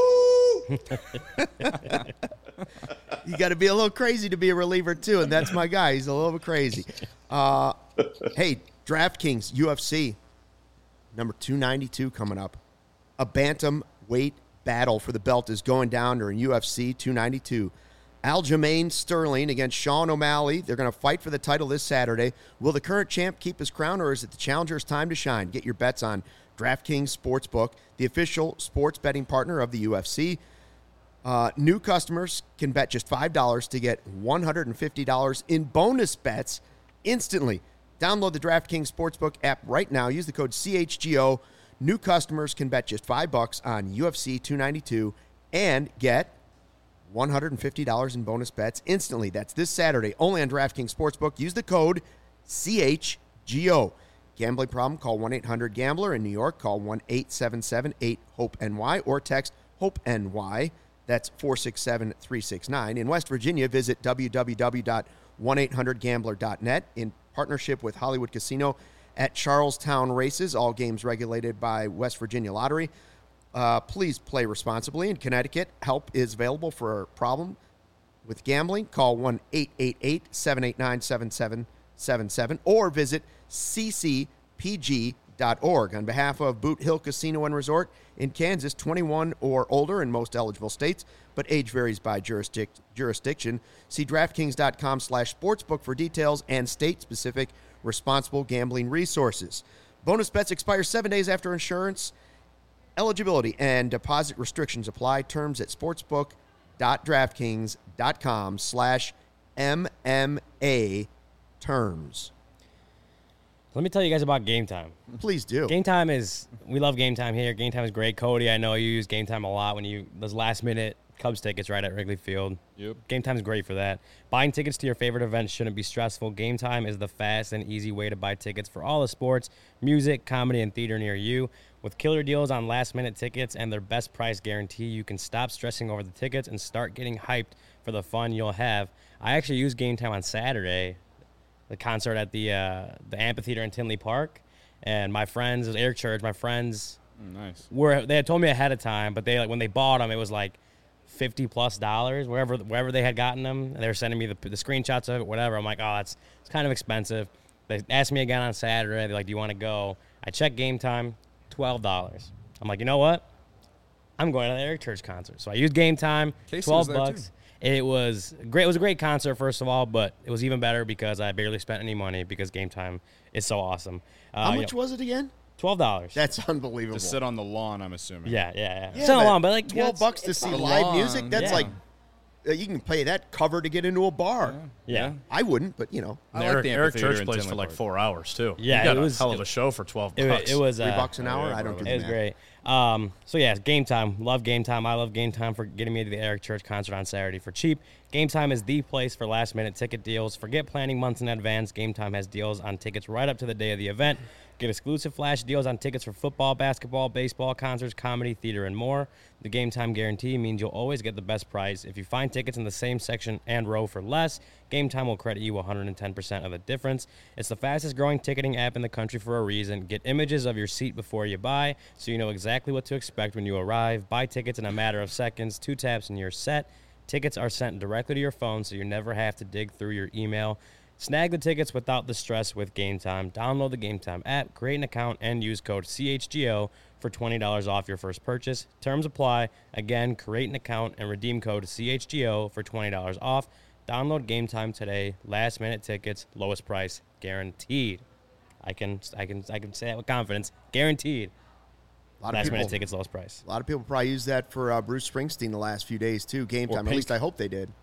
Woo-hoo! You got to be a little crazy to be a reliever, too, and that's my guy. He's a little bit crazy. Hey, DraftKings, UFC, number 292 coming up. A bantamweight battle for the belt is going down during UFC 292. Aljamain Sterling against Sean O'Malley. They're going to fight for the title this Saturday. Will the current champ keep his crown, or is it the challenger's time to shine? Get your bets on DraftKings Sportsbook, the official sports betting partner of the UFC. New customers can bet just $5 to get $150 in bonus bets instantly. Download the DraftKings Sportsbook app right now. Use the code CHGO. New customers can bet just $5 on UFC 292 and get $150 in bonus bets instantly. That's this Saturday, only on DraftKings Sportsbook. Use the code CHGO. Gambling problem? Call 1-800-GAMBLER. In New York, call 1-877-8-HOPE-NY or text HOPE-NY. That's 467-369. In West Virginia, visit www.1800gambler.net in partnership with Hollywood Casino at Charlestown Races. All games regulated by West Virginia Lottery. Please play responsibly. In Connecticut, help is available for a problem with gambling. Call 1-888-789-7777 or visit ccpg.org. On behalf of Boot Hill Casino and Resort in Kansas, 21 or older in most eligible states, but age varies by jurisdiction. See DraftKings.com/sportsbook for details and state-specific responsible gambling resources. Bonus bets expire 7 days after insurance. Eligibility and deposit restrictions apply. Terms at sportsbook.draftkings.com/MMA terms. Let me tell you guys about Game Time. Please do. Game Time we love Game Time here. Game Time is great. Cody, I know you use Game Time a lot when those last minute Cubs tickets right at Wrigley Field. Yep. Game Time is great for that. Buying tickets to your favorite events shouldn't be stressful. Game Time is the fast and easy way to buy tickets for all the sports, music, comedy, and theater near you. With killer deals on last-minute tickets and their best price guarantee, you can stop stressing over the tickets and start getting hyped for the fun you'll have. I actually used Game Time on Saturday, the concert at the amphitheater in Tinley Park, and my friends, it was Eric Church, my friends, Nice. they had told me ahead of time, but when they bought them, it was like $50+ wherever they had gotten them. And they were sending me the screenshots of it, whatever. I'm like, oh, it's kind of expensive. They asked me again on Saturday. They're like, do you want to go? I checked Game Time, $12. I'm like, you know what? I'm going to the Eric Church concert. So I used Game Time, Casey was there $12. too. It was great. It was a great concert, first of all, but it was even better because I barely spent any money because Game Time is so awesome. How much was it again? $12. That's unbelievable. To sit on the lawn, I'm assuming. Yeah. Yeah, It's not long, but like $12 to see live long. music. That's Yeah. like you can pay that cover to get into a bar. Yeah. I wouldn't, but you know, I And like Eric, the Eric amphitheater Church in plays Tinley for like Park. 4 hours too. Yeah, you got it a was- hell of a show for $12. It was $3 an hour. yeah, I don't do It the was math. great. So yeah, Game Time. Love Game Time. I love Game Time for getting me to the Eric Church concert on Saturday for cheap. Game Time is the place for last minute ticket deals. Forget planning months in advance. Game Time has deals on tickets right up to the day of the event. Get exclusive flash deals on tickets for football, basketball, baseball, concerts, comedy, theater, and more. The Game Time guarantee means you'll always get the best price. If you find tickets in the same section and row for less, Game Time will credit you 110% of the difference. It's the fastest growing ticketing app in the country for a reason. Get images of your seat before you buy so you know exactly what to expect when you arrive. Buy tickets in a matter of seconds, 2 taps and you're set. Tickets are sent directly to your phone so you never have to dig through your email. Snag the tickets without the stress with Game Time. Download the Game Time app, create an account, and use code CHGO for $20 off your first purchase. Terms apply. Again, create an account and redeem code CHGO for $20 off. Download Game Time today. Last minute tickets, lowest price guaranteed. I can say that with confidence. Guaranteed. A lot of Last people, minute tickets, lowest price. a lot of people probably use that for Bruce Springsteen the last few days too. Game Or Time. At Pink. least I hope they did.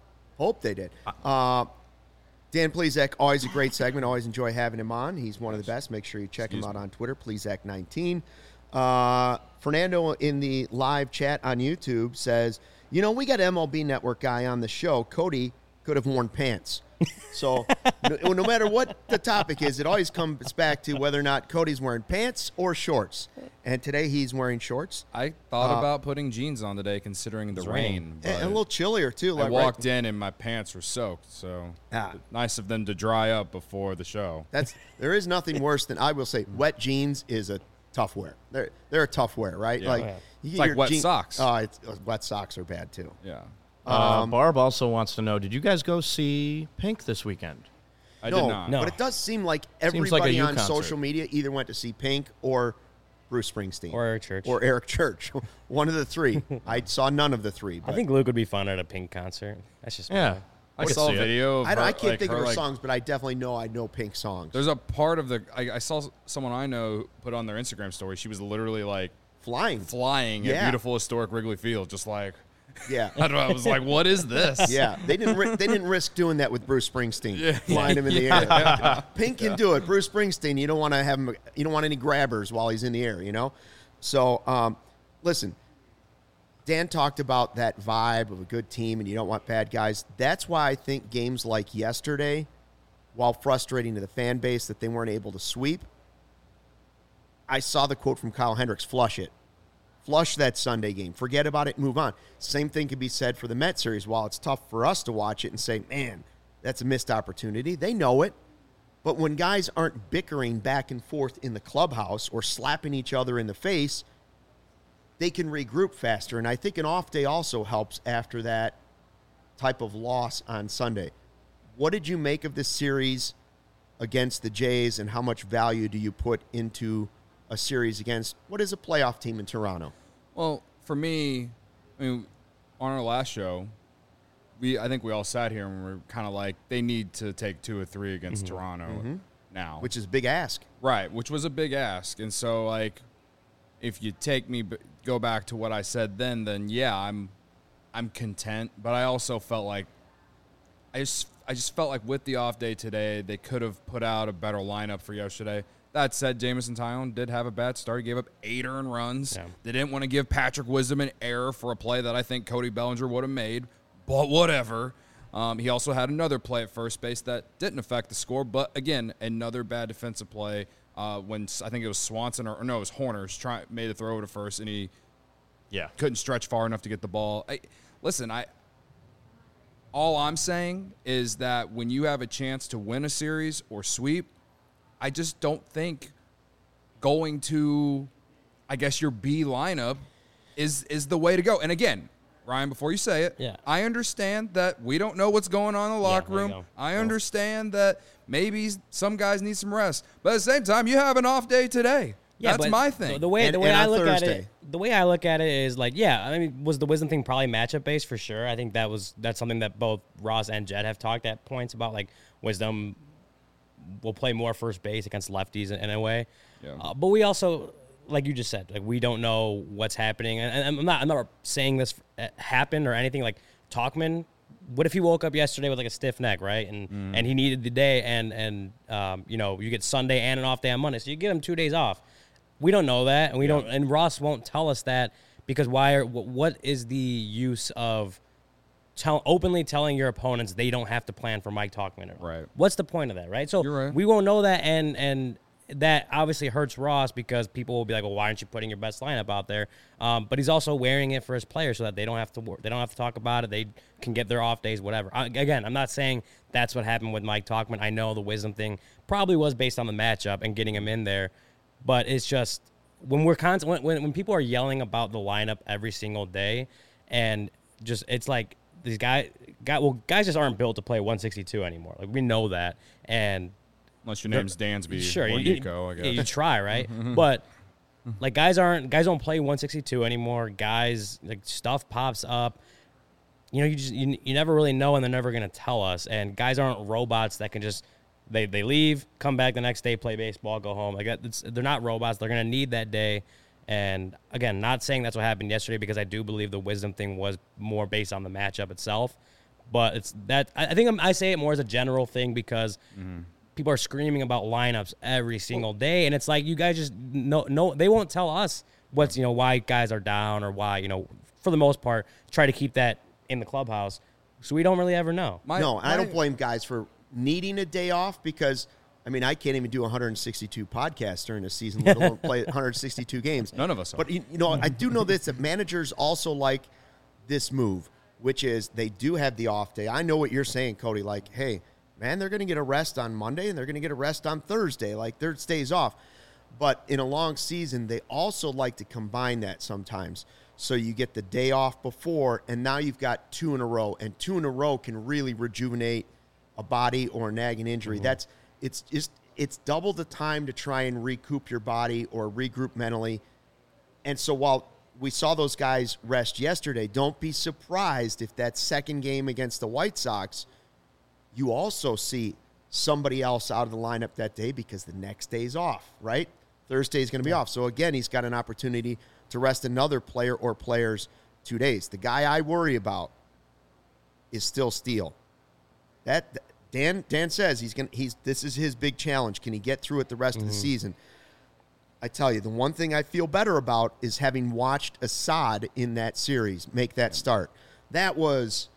Dan Plezak, always a great segment. Always enjoy having him on. He's one of the best. Make sure you check him out on Twitter, Plezak19. Fernando in the live chat on YouTube says, we got MLB Network guy on the show. Cody could have worn pants. So no matter what the topic is, it always comes back to whether or not Cody's wearing pants or shorts. And today he's wearing shorts. I thought about putting jeans on today, considering the rain. And a little chillier, too. I Like walked in and my pants were soaked, so nice of them to dry up before the show. There is nothing worse than, I will say, wet jeans is a tough wear. They're a tough wear, right? Yeah. Like, Yeah. you It's get like your wet socks. Wet socks are bad, too. Yeah, Barb also wants to know, did you guys go see Pink this weekend? I did not. No. But it does seem like like a everybody you on concert. social media either went to see Pink or Bruce Springsteen. Or Eric Church. Or Eric Church. One of the three. I saw none of the three. But I think Luke would be fun at a Pink concert. That's just Yeah. me. I I could saw see a it. video. Of I her, can't like, think of her, her like, songs, but I definitely know I know Pink songs. There's a part of I saw someone I know put on their Instagram story. She was literally like Flying. flying Yeah. at beautiful historic Wrigley Field, just like Yeah. I don't know. I was like, what is this? Yeah, they didn't risk doing that with Bruce Springsteen, flying him in the air. Pink can do it. Bruce Springsteen, you don't want to have him. You don't want any grabbers while he's in the air. So, listen. Dan talked about that vibe of a good team, and you don't want bad guys. That's why I think games like yesterday, while frustrating to the fan base that they weren't able to sweep, I saw the quote from Kyle Hendricks: "Flush it." Flush that Sunday game. Forget about it. Move on. Same thing can be said for the Met series. While it's tough for us to watch it and say, man, that's a missed opportunity, they know it. But when guys aren't bickering back and forth in the clubhouse or slapping each other in the face, they can regroup faster. And I think an off day also helps after that type of loss on Sunday. What did you make of this series against the Jays, and how much value do you put into a series against what is a playoff team in Toronto? Well, for me, I mean, on our last show, I think we all sat here and we were kind of like, they need to take 2 or 3 against Toronto now. Which is a big ask. Right, which was a big ask. And so, like, if you go back to what I said then yeah, I'm content. But I also felt like I just felt like with the off day today, they could have put out a better lineup for yesterday. That said, Jameson Taillon did have a bad start. He gave up 8 earned runs. Yeah. They didn't want to give Patrick Wisdom an error for a play that I think Cody Bellinger would have made, but whatever. He also had another play at first base that didn't affect the score, but again, another bad defensive play when I think it was Swanson or no, it was Horners made a throw over to first, and he couldn't stretch far enough to get the ball. All I'm saying is that when you have a chance to win a series or sweep, I just don't think going to, I guess, your B lineup is the way to go. And again, Ryan, before you say it, I understand that we don't know what's going on in the locker there you room. go. I understand that maybe some guys need some rest. But at the same time, you have an off day today. Yeah, That's but my thing. The way And I on look at Thursday. it, the way I look at it is like, I mean, was the Wisdom thing probably matchup based for sure? I think that's something that both Ross and Jed have talked at points about. Like Wisdom will play more first base against lefties in a way. Yeah. But we also, like you just said, like we don't know what's happening. And I'm not saying this happened or anything. Like Talkman, what if he woke up yesterday with like a stiff neck, right? And he needed the day, and you get Sunday and an off day on Monday, so you give him 2 days off. We don't know that, and we don't. And Ross won't tell us that because what is the use of openly telling your opponents they don't have to plan for Mike Talkman? Right. What's the point of that, right? So You're right. we won't know that, and that obviously hurts Ross because people will be like, well, why aren't you putting your best lineup out there? But he's also wearing it for his players so that they don't have to talk about it. They can get their off days, whatever. Again, I'm not saying that's what happened with Mike Talkman. I know the wisdom thing probably was based on the matchup and getting him in there, but it's just when when people are yelling about the lineup every single day, and just it's like these guys just aren't built to play 162 anymore. Like we know that, and Unless your name's Dansby sure, or Nico, I guess. you try, right? But like guys don't play 162 anymore. Guys, like stuff pops up. You never really know, and they're never gonna tell us. And guys aren't robots that can just they leave, come back the next day, play baseball, go home. Like they're not robots. They're gonna need that day. And again, not saying that's what happened yesterday because I do believe the wisdom thing was more based on the matchup itself. But it's that I think I say it more as a general thing because. People are screaming about lineups every single day, and it's like you guys just no they won't tell us what's why guys are down or why for the most part try to keep that in the clubhouse, so we don't really ever know. I don't blame guys for needing a day off because I mean I can't even do 162 podcasts during a season, let alone play 162 games. None of us are. But I do know this that managers also like this move, which is they do have the off day. I know what you're saying, Cody. Like, hey. Man, they're going to get a rest on Monday, and they're going to get a rest on Thursday, like their days off. But in a long season, they also like to combine that sometimes. So you get the day off before, and now you've got 2 in a row, and 2 in a row can really rejuvenate a body or a nagging injury. It's double the time to try and recoup your body or regroup mentally. And so while we saw those guys rest yesterday, don't be surprised if that second game against the White Sox – you also see somebody else out of the lineup that day because the next day's off, right? Thursday is going to be off. So, again, he's got an opportunity to rest another player or players 2 days. The guy I worry about is still Steele. That Dan says this is his big challenge. Can he get through it the rest of the season? I tell you, the one thing I feel better about is having watched Assad in that series make that start. That was...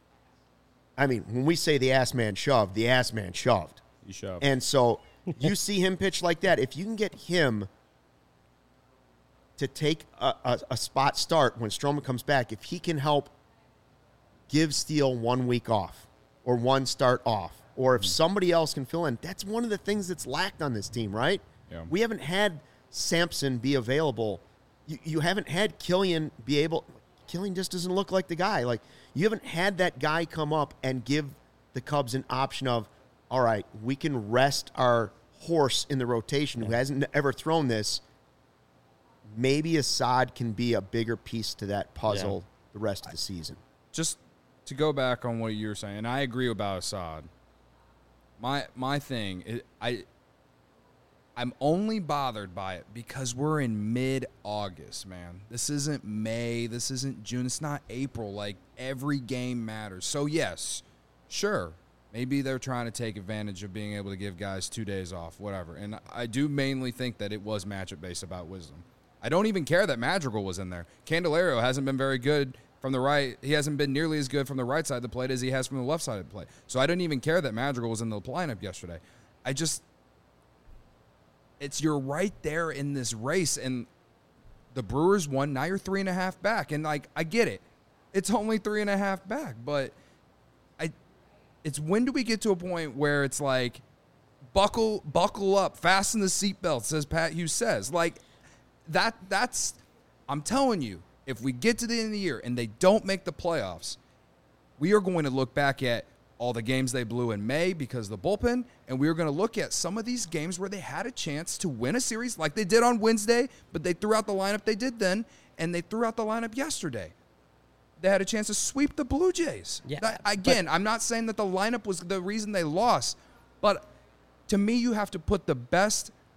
I mean, when we say the ass man shoved, the ass man shoved. He shoved. And so you see him pitch like that. If you can get him to take a spot start when Stroman comes back, if he can help give Steele 1 week off or one start off, or if somebody else can fill in, that's one of the things that's lacked on this team, right? Yeah. We haven't had Sampson be available. You haven't had Killian be able – Killian just doesn't look like the guy. Like, you haven't had that guy come up and give the Cubs an option of, all right, we can rest our horse in the rotation who hasn't ever thrown this. Maybe Assad can be a bigger piece to that puzzle the rest of the season. Just to go back on what you were saying, I agree about Assad. My thing is, I'm only bothered by it because we're in mid-August, man. This isn't May. This isn't June. It's not April. Like, every game matters. So, yes, sure, maybe they're trying to take advantage of being able to give guys 2 days off, whatever. And I do mainly think that it was matchup-based about wisdom. I don't even care that Madrigal was in there. Candelario hasn't been very good from the right. He hasn't been nearly as good from the right side of the plate as he has from the left side of the plate. So I didn't even care that Madrigal was in the lineup yesterday. You're right there in this race, and the Brewers won. Now you're 3.5 back, and like I get it, it's only 3.5 back, but it's when do we get to a point where it's like buckle up, fasten the seatbelts, as Pat Hughes says, like that's I'm telling you, if we get to the end of the year and they don't make the playoffs, we are going to look back at all the games they blew in May because of the bullpen, and we were going to look at some of these games where they had a chance to win a series like they did on Wednesday, but they threw out the lineup they did then, and they threw out the lineup yesterday. They had a chance to sweep the Blue Jays. Yeah, I'm not saying that the lineup was the reason they lost, but to me, you have to put the best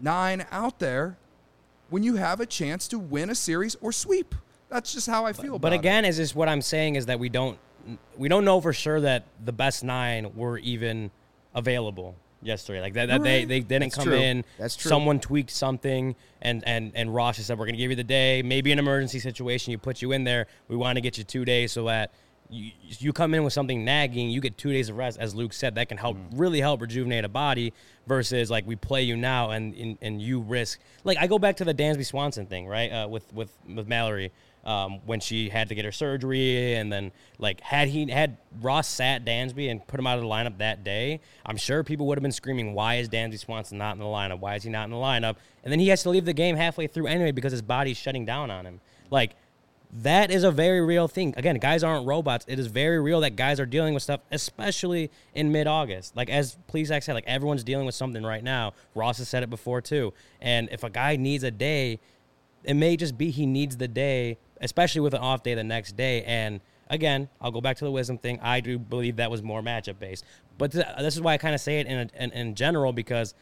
9 out there when you have a chance to win a series or sweep. That's just how I feel about But it. again, is this what I'm saying is that we don't know for sure that the best 9 were even available yesterday. Like that they didn't That's come true. in. That's true. Someone tweaked something, and Ross just said, we're going to give you the day. Maybe an emergency situation, you put you in there. We want to get you 2 days so that you come in with something nagging, you get 2 days of rest. As Luke said, that can really help rejuvenate a body versus like we play you now and you risk. Like I go back to the Dansby Swanson thing, right? With Mallory. When she had to get her surgery, and then like had Ross sat Dansby and put him out of the lineup that day, I'm sure people would have been screaming, "Why is Dansby Swanson not in the lineup? Why is he not in the lineup?" And then he has to leave the game halfway through anyway because his body's shutting down on him. Like that is a very real thing. Again, guys aren't robots. It is very real that guys are dealing with stuff, especially in mid-August. Like as Plesac said, like everyone's dealing with something right now. Ross has said it before too. And if a guy needs a day, it may just be he needs the day, especially with an off day the next day. And again, I'll go back to the wisdom thing. I do believe that was more matchup based. But this is why I kind of say it in general, because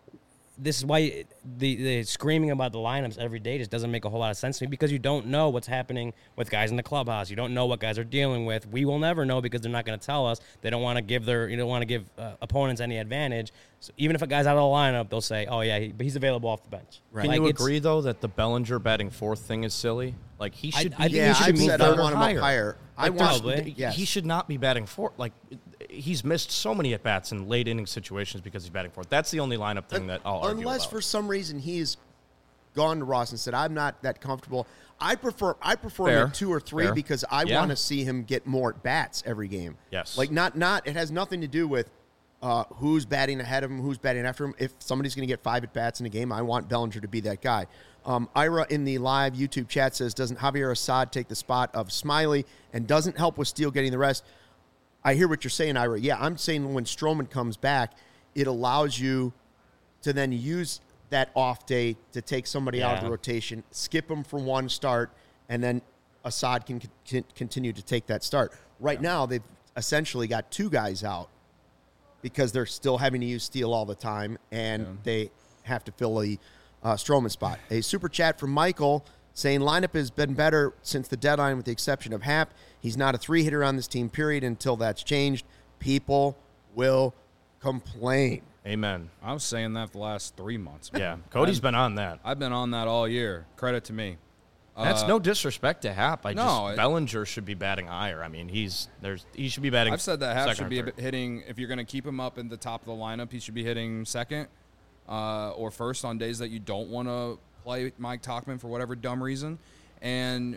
this is why the screaming about the lineups every day just doesn't make a whole lot of sense to me, because you don't know what's happening with guys in the clubhouse. You don't know what guys are dealing with. We will never know because they're not going to tell us. They don't want to give opponents any advantage. So even if a guy's out of the lineup, they'll say, "Oh yeah, but he's available off the bench." Right. Can Like, you it's- agree though that the Bellinger batting 4th thing is silly? Like he should. I think Yeah, he should I've be said I third or want him up higher. I Like, want. probably. Yes. He should not be batting 4th. Like he's missed so many at bats in late inning situations because he's batting 4th. That's the only lineup thing that I'll argue Unless about. for some reason he's gone to Ross and said, "I'm not that comfortable." I prefer Fair. him at 2 or 3 Fair. because I Yeah. want to see him get more at bats every game. Yes. Like not. It has nothing to do with who's batting ahead of him, who's batting after him. If somebody's going to get 5 at bats in a game, I want Bellinger to be that guy. Ira in the live YouTube chat says, "Doesn't Javier Assad take the spot of Smiley and doesn't help with Steele getting the rest?" I hear what you're saying, Ira. Yeah, I'm saying when Stroman comes back, it allows you to then use that off day to take somebody out of the Yeah. rotation, skip him for one start, and then Assad can continue to take that start. Right now, they've essentially got 2 guys out because they're still having to use Steele all the time, and they have to fill the Stroman spot. A super chat from Michael saying lineup has been better since the deadline with the exception of Happ. He's not a 3-hitter on this team, period. Until that's changed, people will complain. Amen. I was saying that for the last 3 months. Yeah, man. Cody's been on that. I've been on that all year. Credit to me. That's no disrespect to Happ. No, Bellinger should be batting higher. I mean, he should be batting. I've said that Happ second should be or third. hitting, if you're going to keep him up in the top of the lineup, he should be hitting second or first on days that you don't want to play Mike Tauchman for whatever dumb reason. And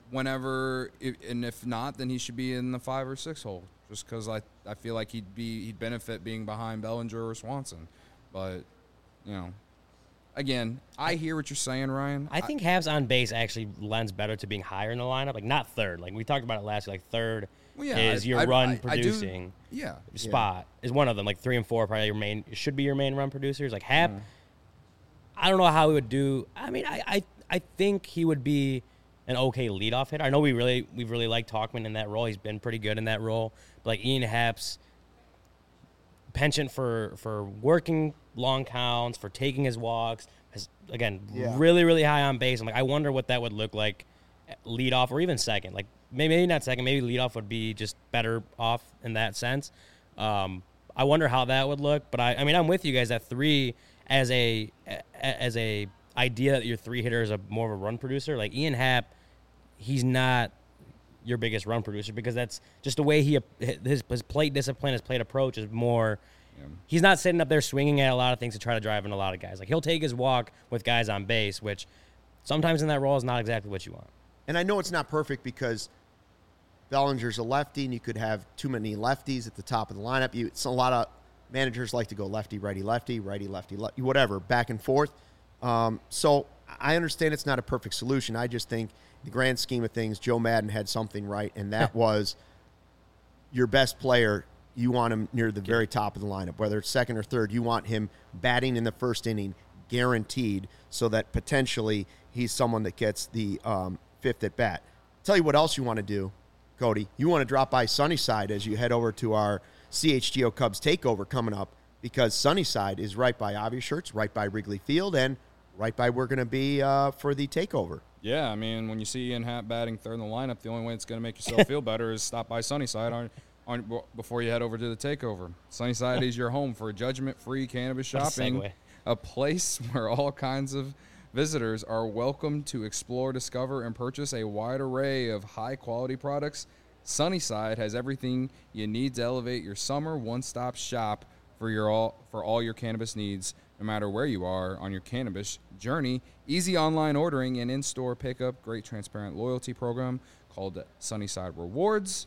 if not, then he should be in the 5 or 6 hole, just because I feel like he'd benefit being behind Bellinger or Swanson. But, again, I hear what you're saying, Ryan. I think Habs on base actually lends better to being higher in the lineup, like not third. Like we talked about it last year, like third is your run producing spot is one of them. Like 3 and 4 probably should be your main run producers. Like Hap, I don't know how he would do. I mean, I think he would be an okay leadoff hitter. I know we really like Tauchman in that role. He's been pretty good in that role. But like Ian Happ's penchant for working long counts, for taking his walks, is again really, really high on base. I'm like, I wonder what that would look like at leadoff or even second. Like maybe not second, maybe leadoff would be just better off in that sense. I wonder how that would look. But I mean, I'm with you guys at 3 as a idea that your 3 hitter is more of a run producer. Like Ian Happ, he's not your biggest run producer because that's just the way his plate discipline, his plate approach is more. He's not sitting up there swinging at a lot of things to try to drive in a lot of guys. Like he'll take his walk with guys on base, which sometimes in that role is not exactly what you want. And I know it's not perfect because Bellinger's a lefty, and you could have too many lefties at the top of the lineup. It's a lot of managers like to go lefty, righty, lefty, whatever, back and forth. So I understand it's not a perfect solution. I just think in the grand scheme of things, Joe Madden had something right, and that was your best player. You want him near the very top of the lineup, whether it's second or third. You want him batting in the first inning, guaranteed, so that potentially he's someone that gets the 5th at bat. Tell you what else you want to do, Cody. You want to drop by Sunnyside as you head over to our CHGO Cubs takeover coming up because Sunnyside is right by Obvious Shirts, right by Wrigley Field, and right by we're going to be for the takeover. Yeah, I mean, when you see Ian Happ batting third in the lineup, the only way it's going to make yourself feel better is stop by Sunnyside before you head over to the takeover. Sunnyside is your home for judgment-free cannabis What a shopping, segue. a place where all kinds of visitors are welcome to explore, discover, and purchase a wide array of high-quality products. Sunnyside has everything you need to elevate your summer one-stop shop for all your cannabis needs, no matter where you are on your cannabis journey. Easy online ordering and in-store pickup. Great transparent loyalty program called Sunnyside Rewards.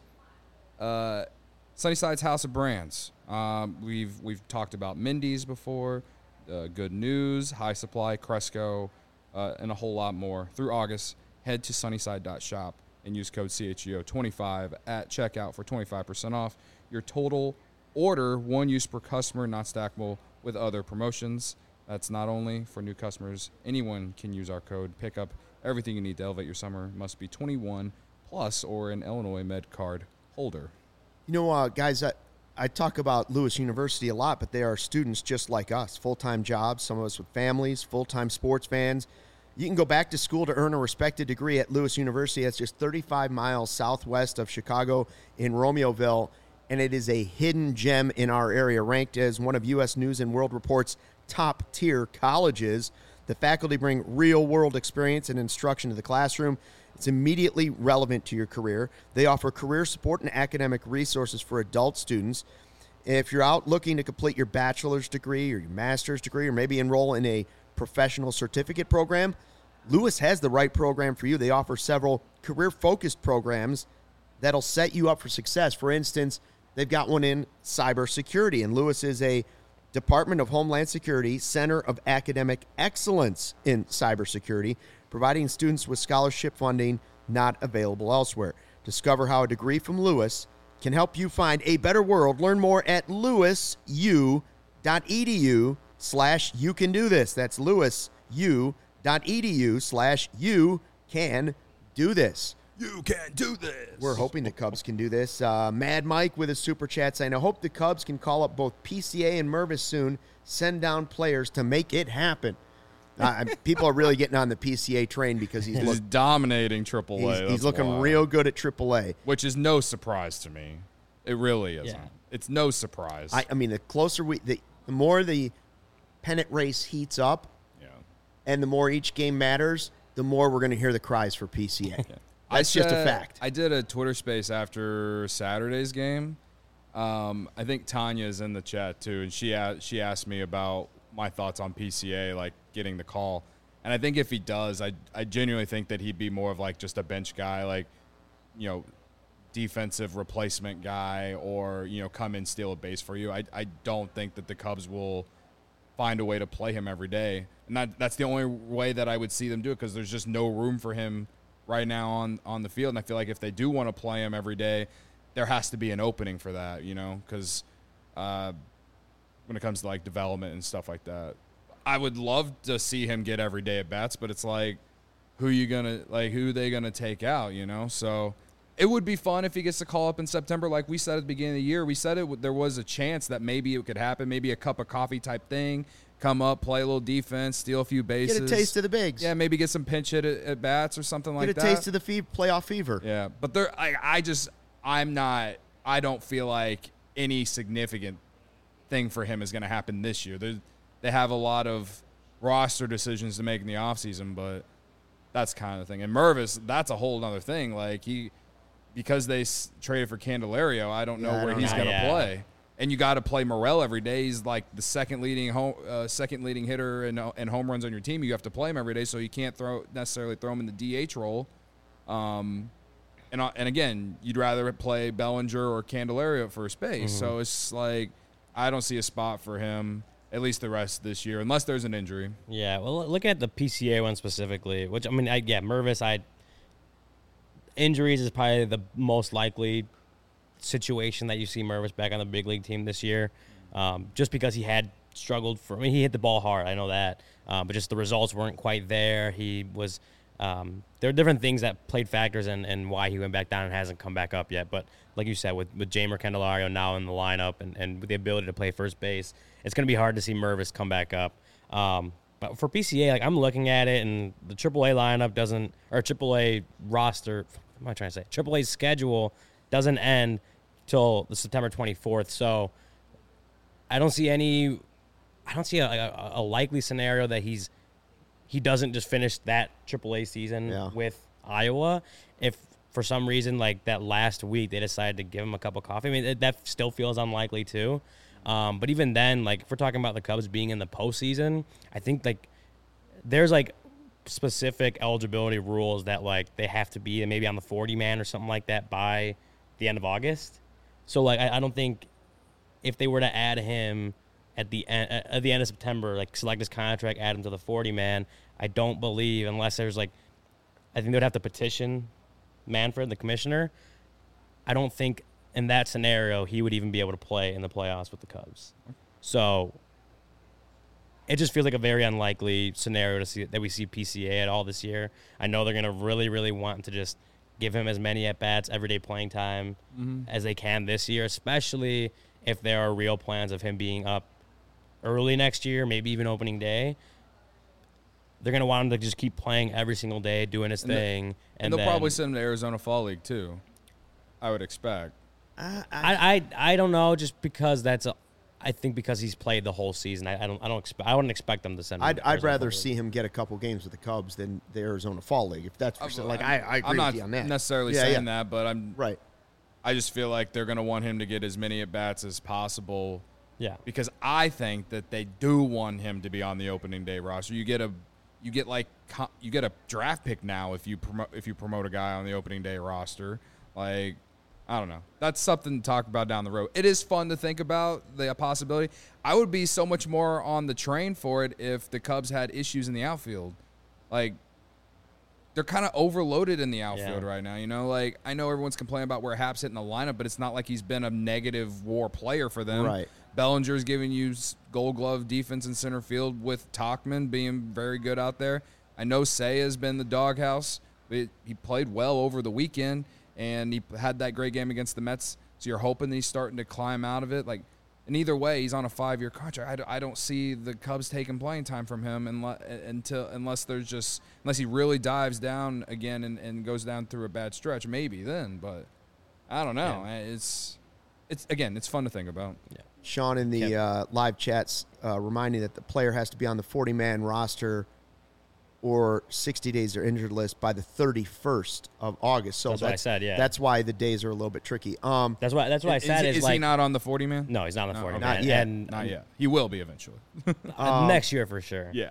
Sunnyside's House of Brands. We've talked about Mindy's before. Good News, High Supply, Cresco, and a whole lot more. Through August, head to sunnyside.shop and use code CHGO25 at checkout for 25% off your total order. One use per customer, not stackable with other promotions. That's not only for new customers. Anyone can use our code. Pick up everything you need to elevate your summer. Must be 21 plus or an Illinois Med card holder. You know, guys, I talk about Lewis University a lot, but they are students just like us, full-time jobs, some of us with families, full-time sports fans. You can go back to school to earn a respected degree at Lewis University. It's just 35 miles southwest of Chicago in Romeoville, and it is a hidden gem in our area, ranked as one of U.S. News and World Report's top-tier colleges. The faculty bring real-world experience and instruction to the classroom. It's immediately relevant to your career. They offer career support and academic resources for adult students. If you're out looking to complete your bachelor's degree or your master's degree or maybe enroll in a professional certificate program, Lewis has the right program for you. They offer several career-focused programs that'll set you up for success. For instance, they've got one in cybersecurity, and Lewis is a Department of Homeland Security Center of Academic Excellence in cybersecurity, providing students with scholarship funding not available elsewhere. Discover how a degree from Lewis can help you find a better world. Learn more at lewisu.edu/you can do this. That's lewisu.edu/you can do this. You can do this. We're hoping the Cubs can do this. Mad Mike with his super chat saying, I hope the Cubs can call up both PCA and Mervis soon, send down players to make it happen. People are really getting on the PCA train because he's dominating AAA. He's looking real good at AAA. Which is no surprise to me. It really isn't. Yeah. It's no surprise. I mean, the closer the more the pennant race heats up, and the more each game matters, the more we're going to hear the cries for PCA. That's just a fact. I did a Twitter space after Saturday's game. I think Tanya's in the chat too, and she asked me about my thoughts on PCA, like getting the call. And I think if he does, I genuinely think that he'd be more of like just a bench guy, like, defensive replacement guy, or, come in, steal a base for you. I don't think that the Cubs will find a way to play him every day. And that's the only way that I would see them do it, because there's just no room for him right now on the field. And I feel like if they do want to play him every day, there has to be an opening for that, because when it comes to like development and stuff like that, I would love to see him get every day at bats, but it's like, who are they gonna take out, So it would be fun if he gets to call up in September. Like we said at the beginning of the year, we said there was a chance that maybe it could happen, maybe a cup of coffee type thing, come up, play a little defense, steal a few bases. Get a taste of the bigs. Yeah, maybe get some pinch hit at bats or something like that. Get a taste of the playoff fever. Yeah, but I don't feel like any significant thing for him is going to happen this year. They have a lot of roster decisions to make in the offseason, but that's kind of the thing. And Mervis, that's a whole other thing. Like because they traded for Candelario, I don't know where he's going to play. And you got to play Morel every day. He's like the second leading hitter and home runs on your team. You have to play him every day, so you can't necessarily throw him in the DH role. And again, you'd rather play Bellinger or Candelario at first base. Mm-hmm. So it's like I don't see a spot for him at least the rest of this year, unless there's an injury. Yeah, well, looking at the PCA one specifically, which Mervis, injuries is probably the most likely situation that you see Mervis back on the big league team this year, just because he had struggled he hit the ball hard, I know that, but just the results weren't quite there. He was There are different things that played factors in why he went back down and hasn't come back up yet. But like you said, with Jamer Candelario now in the lineup and with the ability to play first base, it's going to be hard to see Mervis come back up. But for PCA, like I'm looking at it, and the AAA lineup doesn't, or AAA roster, what am I trying to say? AAA's schedule doesn't end till the September 24th. So I don't see a likely scenario that he doesn't just finish that AAA season with Iowa. If for some reason, like that last week, they decided to give him a cup of coffee, I mean, that still feels unlikely too. But even then, like if we're talking about the Cubs being in the postseason, I think like there's like specific eligibility rules that like they have to be maybe on the 40-man or something like that by the end of August. So like I don't think if they were to add him at the end of September, like select his contract, add him to the 40-man, I don't believe, unless there's like, I think they would have to petition Manfred, the commissioner. I don't think in that scenario he would even be able to play in the playoffs with the Cubs. So it just feels like a very unlikely scenario to see that we see PCA at all this year. I know they're going to really, really want to just give him as many at-bats, everyday playing time as they can this year, especially if there are real plans of him being up early next year, maybe even opening day. They're going to want him to just keep playing every single day, doing his thing. And they'll probably send him to Arizona Fall League, too, I would expect. I don't know, just because I think because he's played the whole season, I wouldn't expect them to send him. I'd rather see him get a couple games with the Cubs than the Arizona Fall League, if that's for sure. Like I agree with you on that. I'm not necessarily saying that, but I just feel like they're going to want him to get as many at bats as possible. Yeah, because I think that they do want him to be on the opening day roster. You get a draft pick now if you promote a guy on the opening day roster. Like, I don't know. That's something to talk about down the road. It is fun to think about the possibility. I would be so much more on the train for it if the Cubs had issues in the outfield. Like, they're kind of overloaded in the outfield right now. You know, like I know everyone's complaining about where Hap's hitting the lineup, but it's not like he's been a negative WAR player for them. Right. Bellinger's giving you Gold Glove defense in center field with Tauchman being very good out there. I know Seiya's been the doghouse, but he played well over the weekend, and he had that great game against the Mets. So you're hoping that he's starting to climb out of it. Like, and either way, he's on a 5-year contract. I don't see the Cubs taking playing time from him unless he really dives down again and goes down through a bad stretch. Maybe then, but I don't know. Yeah. It's fun to think about. Yeah. Sean in the live chats reminding that the player has to be on the 40-man roster or 60 days or injured list by the 31st of August. So that's what I said, yeah. That's why the days are a little bit tricky. That's why I said is he not on the 40-man? No, he's not on the 40-man. Not yet. Not yet. He will be eventually. Next year for sure. Yeah.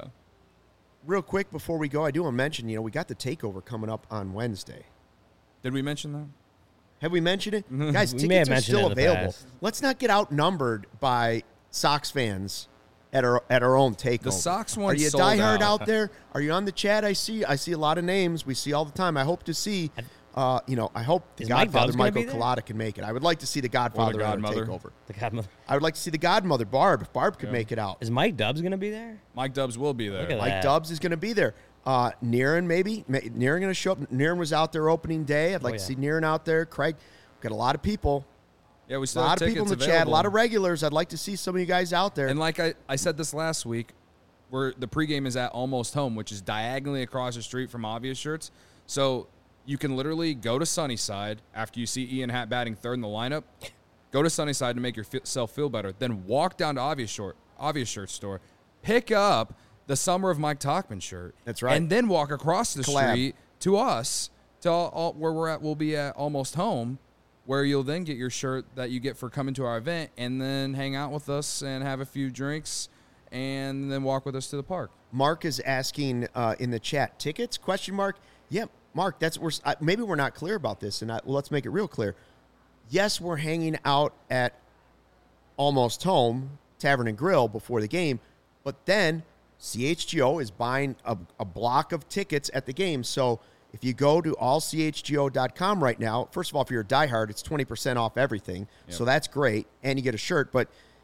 Real quick before we go, I do want to mention, we got the takeover coming up on Wednesday. Did we mention that? Have we mentioned it? Mm-hmm. Guys, tickets are still available. Let's not get outnumbered by Sox fans at our own takeover. The Sox one. Are you a diehard out there? Are you on the chat? I see a lot of names. We see all the time. I hope to see. I hope the Godfather Michael Collada can make it. I would like to see the Godfather at our takeover. The Godmother. I would like to see the Godmother Barb. If Barb could make it out. Is Mike Dubs going to be there? Mike Dubs will be there. Mike Dubs is going to be there. Niren maybe. Niren going to show up. Niren was out there opening day. I'd like to see Niren out there. Craig. Got a lot of people. Yeah, we still a lot have of people in the available. chat. A lot of regulars. I'd like to see some of you guys out there. And like I said this last week, where the pregame is at Almost Home, which is diagonally across the street from Obvious Shirts. So you can literally go to Sunnyside after you see Ian Happ batting third in the lineup. Go to Sunnyside to make yourself feel better. Then walk down to Obvious Shirts store, pick up the Summer of Mike Tauchman shirt. That's right. And then walk across the street to us, to where we're at. We'll be at Almost Home, where you'll then get your shirt that you get for coming to our event and then hang out with us and have a few drinks and then walk with us to the park. Mark is asking in the chat, tickets, ? Yeah, Mark, maybe we're not clear about this, and let's make it real clear. Yes, we're hanging out at Almost Home Tavern and Grill before the game, but then CHGO is buying a block of tickets at the game, so if you go to allchgo.com right now, first of all, if you're a diehard, it's 20% off everything. Yep. So that's great, and you get a shirt. But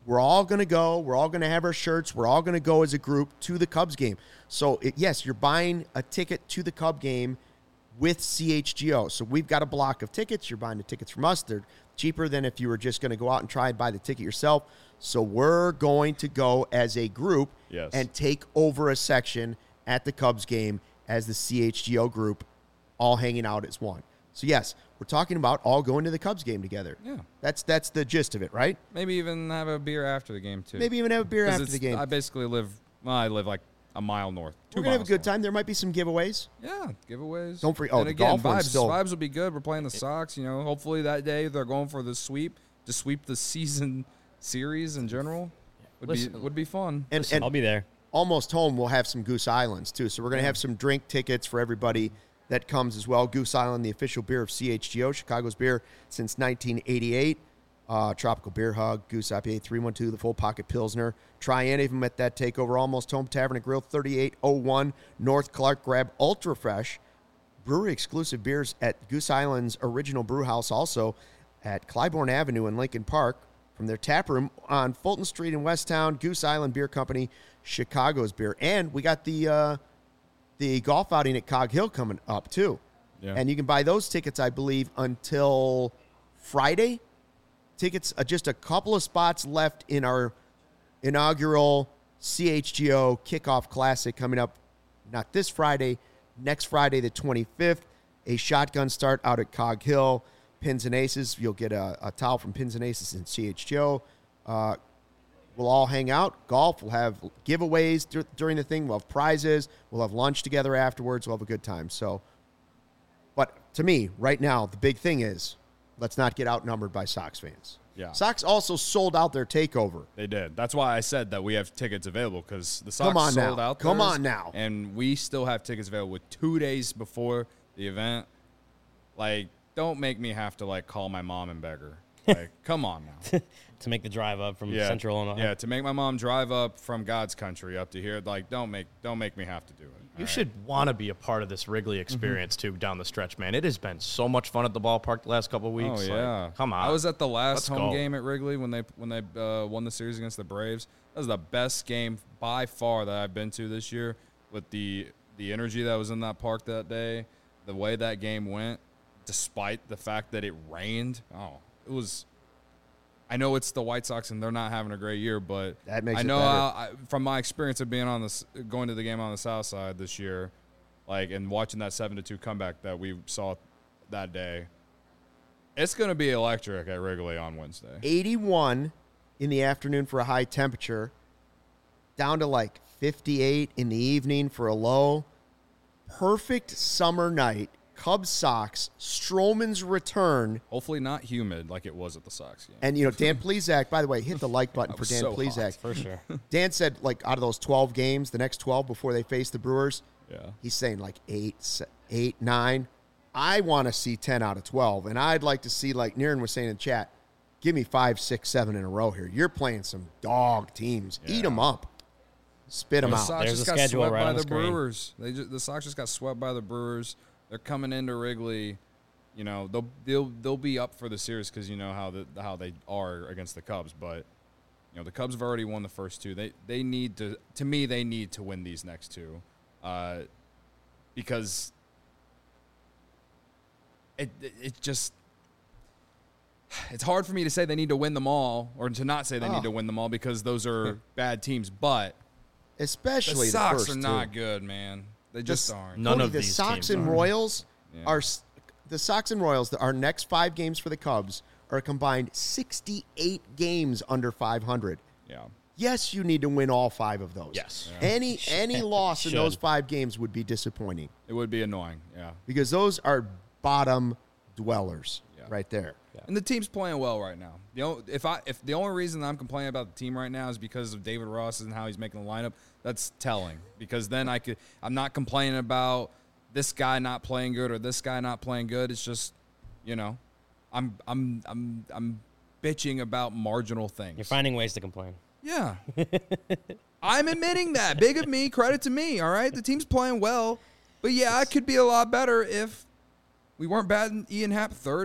we're all going to go. We're all going to have our shirts. We're all going to go as a group to the Cubs game. So, yes, you're buying a ticket to the Cub game with CHGO. So we've got a block of tickets. You're buying the tickets from us. They're cheaper than if you were just going to go out and try and buy the ticket yourself. So we're going to go as a group and take over a section at the Cubs game as the CHGO group, all hanging out as one. So, yes, we're talking about all going to the Cubs game together. Yeah. That's the gist of it, right? Maybe even have a beer after the game, too. Maybe even have a beer after the game. I basically live like a mile north. We're going to have a good time. There might be some giveaways. Yeah, giveaways. Don't forget. And the again, golf one's vibes will be good. We're playing the Sox. Hopefully that day they're going for the sweep to sweep the season series in general. Would be fun. And I'll be there. Almost Home will have some Goose Islands, too. So we're going to have some drink tickets for everybody that comes as well. Goose Island, the official beer of CHGO, Chicago's beer since 1988. Tropical Beer Hug, Goose IPA 312, the Full Pocket Pilsner. Try any of them at that takeover. Almost Home Tavern and Grill, 3801 North Clark. Grab Ultra Fresh, brewery exclusive beers at Goose Island's original brew house, also at Clybourne Avenue in Lincoln Park. From their tap room on Fulton Street in Westtown, Goose Island Beer Company, Chicago's beer. And we got the golf outing at Cog Hill coming up, too. Yeah. And you can buy those tickets, I believe, until Friday. Tickets, just a couple of spots left in our inaugural CHGO Kickoff Classic coming up, not this Friday, next Friday, the 25th. A shotgun start out at Cog Hill. Pins and Aces. You'll get a towel from Pins and Aces in CHGO. We'll all hang out. Golf. We'll have giveaways during the thing. We'll have prizes. We'll have lunch together afterwards. We'll have a good time. So, but to me, right now, the big thing is let's not get outnumbered by Sox fans. Yeah. Sox also sold out their takeover. They did. That's why I said that we have tickets available, because the Sox sold out theirs. Come on now. And we still have tickets available with 2 days before the event. Like, don't make me have to, call my mom and beg her. Like, come on now. To make the drive up from Central Illinois. Yeah, to make my mom drive up from God's country up to here. Like, don't make me have to do it. You should want to be a part of this Wrigley experience, too, down the stretch, man. It has been so much fun at the ballpark the last couple of weeks. Oh, yeah. Come on. I was at the last home game at Wrigley when they won the series against the Braves. That was the best game by far that I've been to this year, with the energy that was in that park that day, the way that game went, despite the fact that it rained. Oh, it was – I know it's the White Sox and they're not having a great year, but that makes I know better. From my experience of being going to the game on the South Side this year, and watching that 7-2 comeback that we saw that day, it's going to be electric at Wrigley on Wednesday. 81 in the afternoon for a high temperature, down to 58 in the evening for a low. Perfect summer night. Cubs Sox, Stroman's return. Hopefully not humid like it was at the Sox game. And, Dan Plesac, by the way, hit the like button for Dan so Plesac. hot. For sure. Dan said, out of those 12 games, the next 12 before they face the Brewers, he's saying 8, 9. I want to see 10 out of 12. And I'd like to see, Niren was saying in the chat, give me 5, 6, 7 in a row here. You're playing some dog teams. Yeah. Eat them up. Spit them out. Sox There's just a got schedule swept right by on the the screen. Brewers. The Sox just got swept by the Brewers. They're coming into Wrigley. They'll be up for the series because you know how they are against the Cubs. But the Cubs have already won the first two. They need to. To me, they need to win these next two, because it just. It's hard for me to say they need to win them all, or to not say they need to win them all, because those are bad teams. But especially the Sox first are two. not good, man. They just aren't. None Cody, of the these Sox teams and are. Royals are the Sox and Royals. Our next 5 games for the Cubs are a combined 68 games under 500. Yeah. Yes, you need to win all 5 of those. Yes. Yeah. Any loss in those 5 games would be disappointing. It would be annoying. Yeah. Because those are bottom dwellers right there. Yeah. And the team's playing well right now. If the only reason I'm complaining about the team right now is because of David Ross and how he's making the lineup, that's telling. Because then I'm not complaining about this guy not playing good or this guy not playing good. It's just, I'm bitching about marginal things. You're finding ways to complain. Yeah. I'm admitting that. Big of me, credit to me, all right? The team's playing well. But, yeah, it could be a lot better if we weren't batting Ian Happ third. And,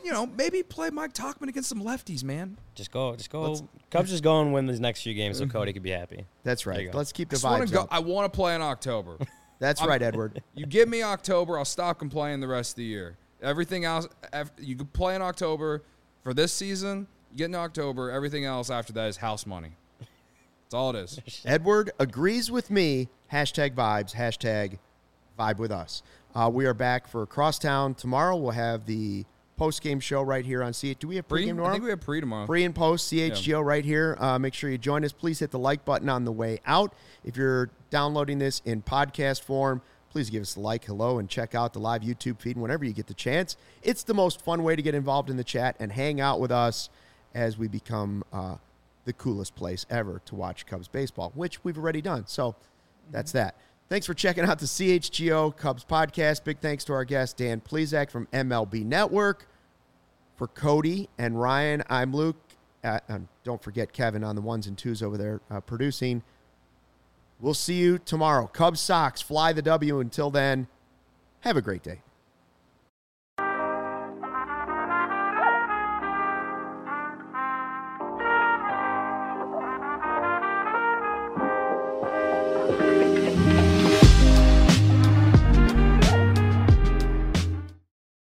maybe play Mike Tauchman against some lefties, man. Just go. Cubs just go and win these next few games, so Cody could be happy. That's There right. you go. Let's keep the Just wanna vibes go, up. I want to play in October. That's right, Edward. You give me October, I'll stop complaining the rest of the year. Everything else, you can play in October for this season. You get in October. Everything else after that is house money. That's all it is. Edward agrees with me. #vibes. #vibe with us. We are back for Crosstown tomorrow. We'll have the post-game show right here on CH. Do we have pre-game tomorrow? I think we have pre tomorrow. Pre and post, CHGO right here. Make sure you join us. Please hit the like button on the way out. If you're downloading this in podcast form, please give us a like, hello, and check out the live YouTube feed whenever you get the chance. It's the most fun way to get involved in the chat and hang out with us as we become the coolest place ever to watch Cubs baseball, which we've already done. So that's that. Thanks for checking out the CHGO Cubs podcast. Big thanks to our guest, Dan Plesac from MLB Network. For Cody and Ryan, I'm Luke. Don't forget Kevin on the ones and twos over there producing. We'll see you tomorrow. Cubs Sox, fly the W. Until then, have a great day.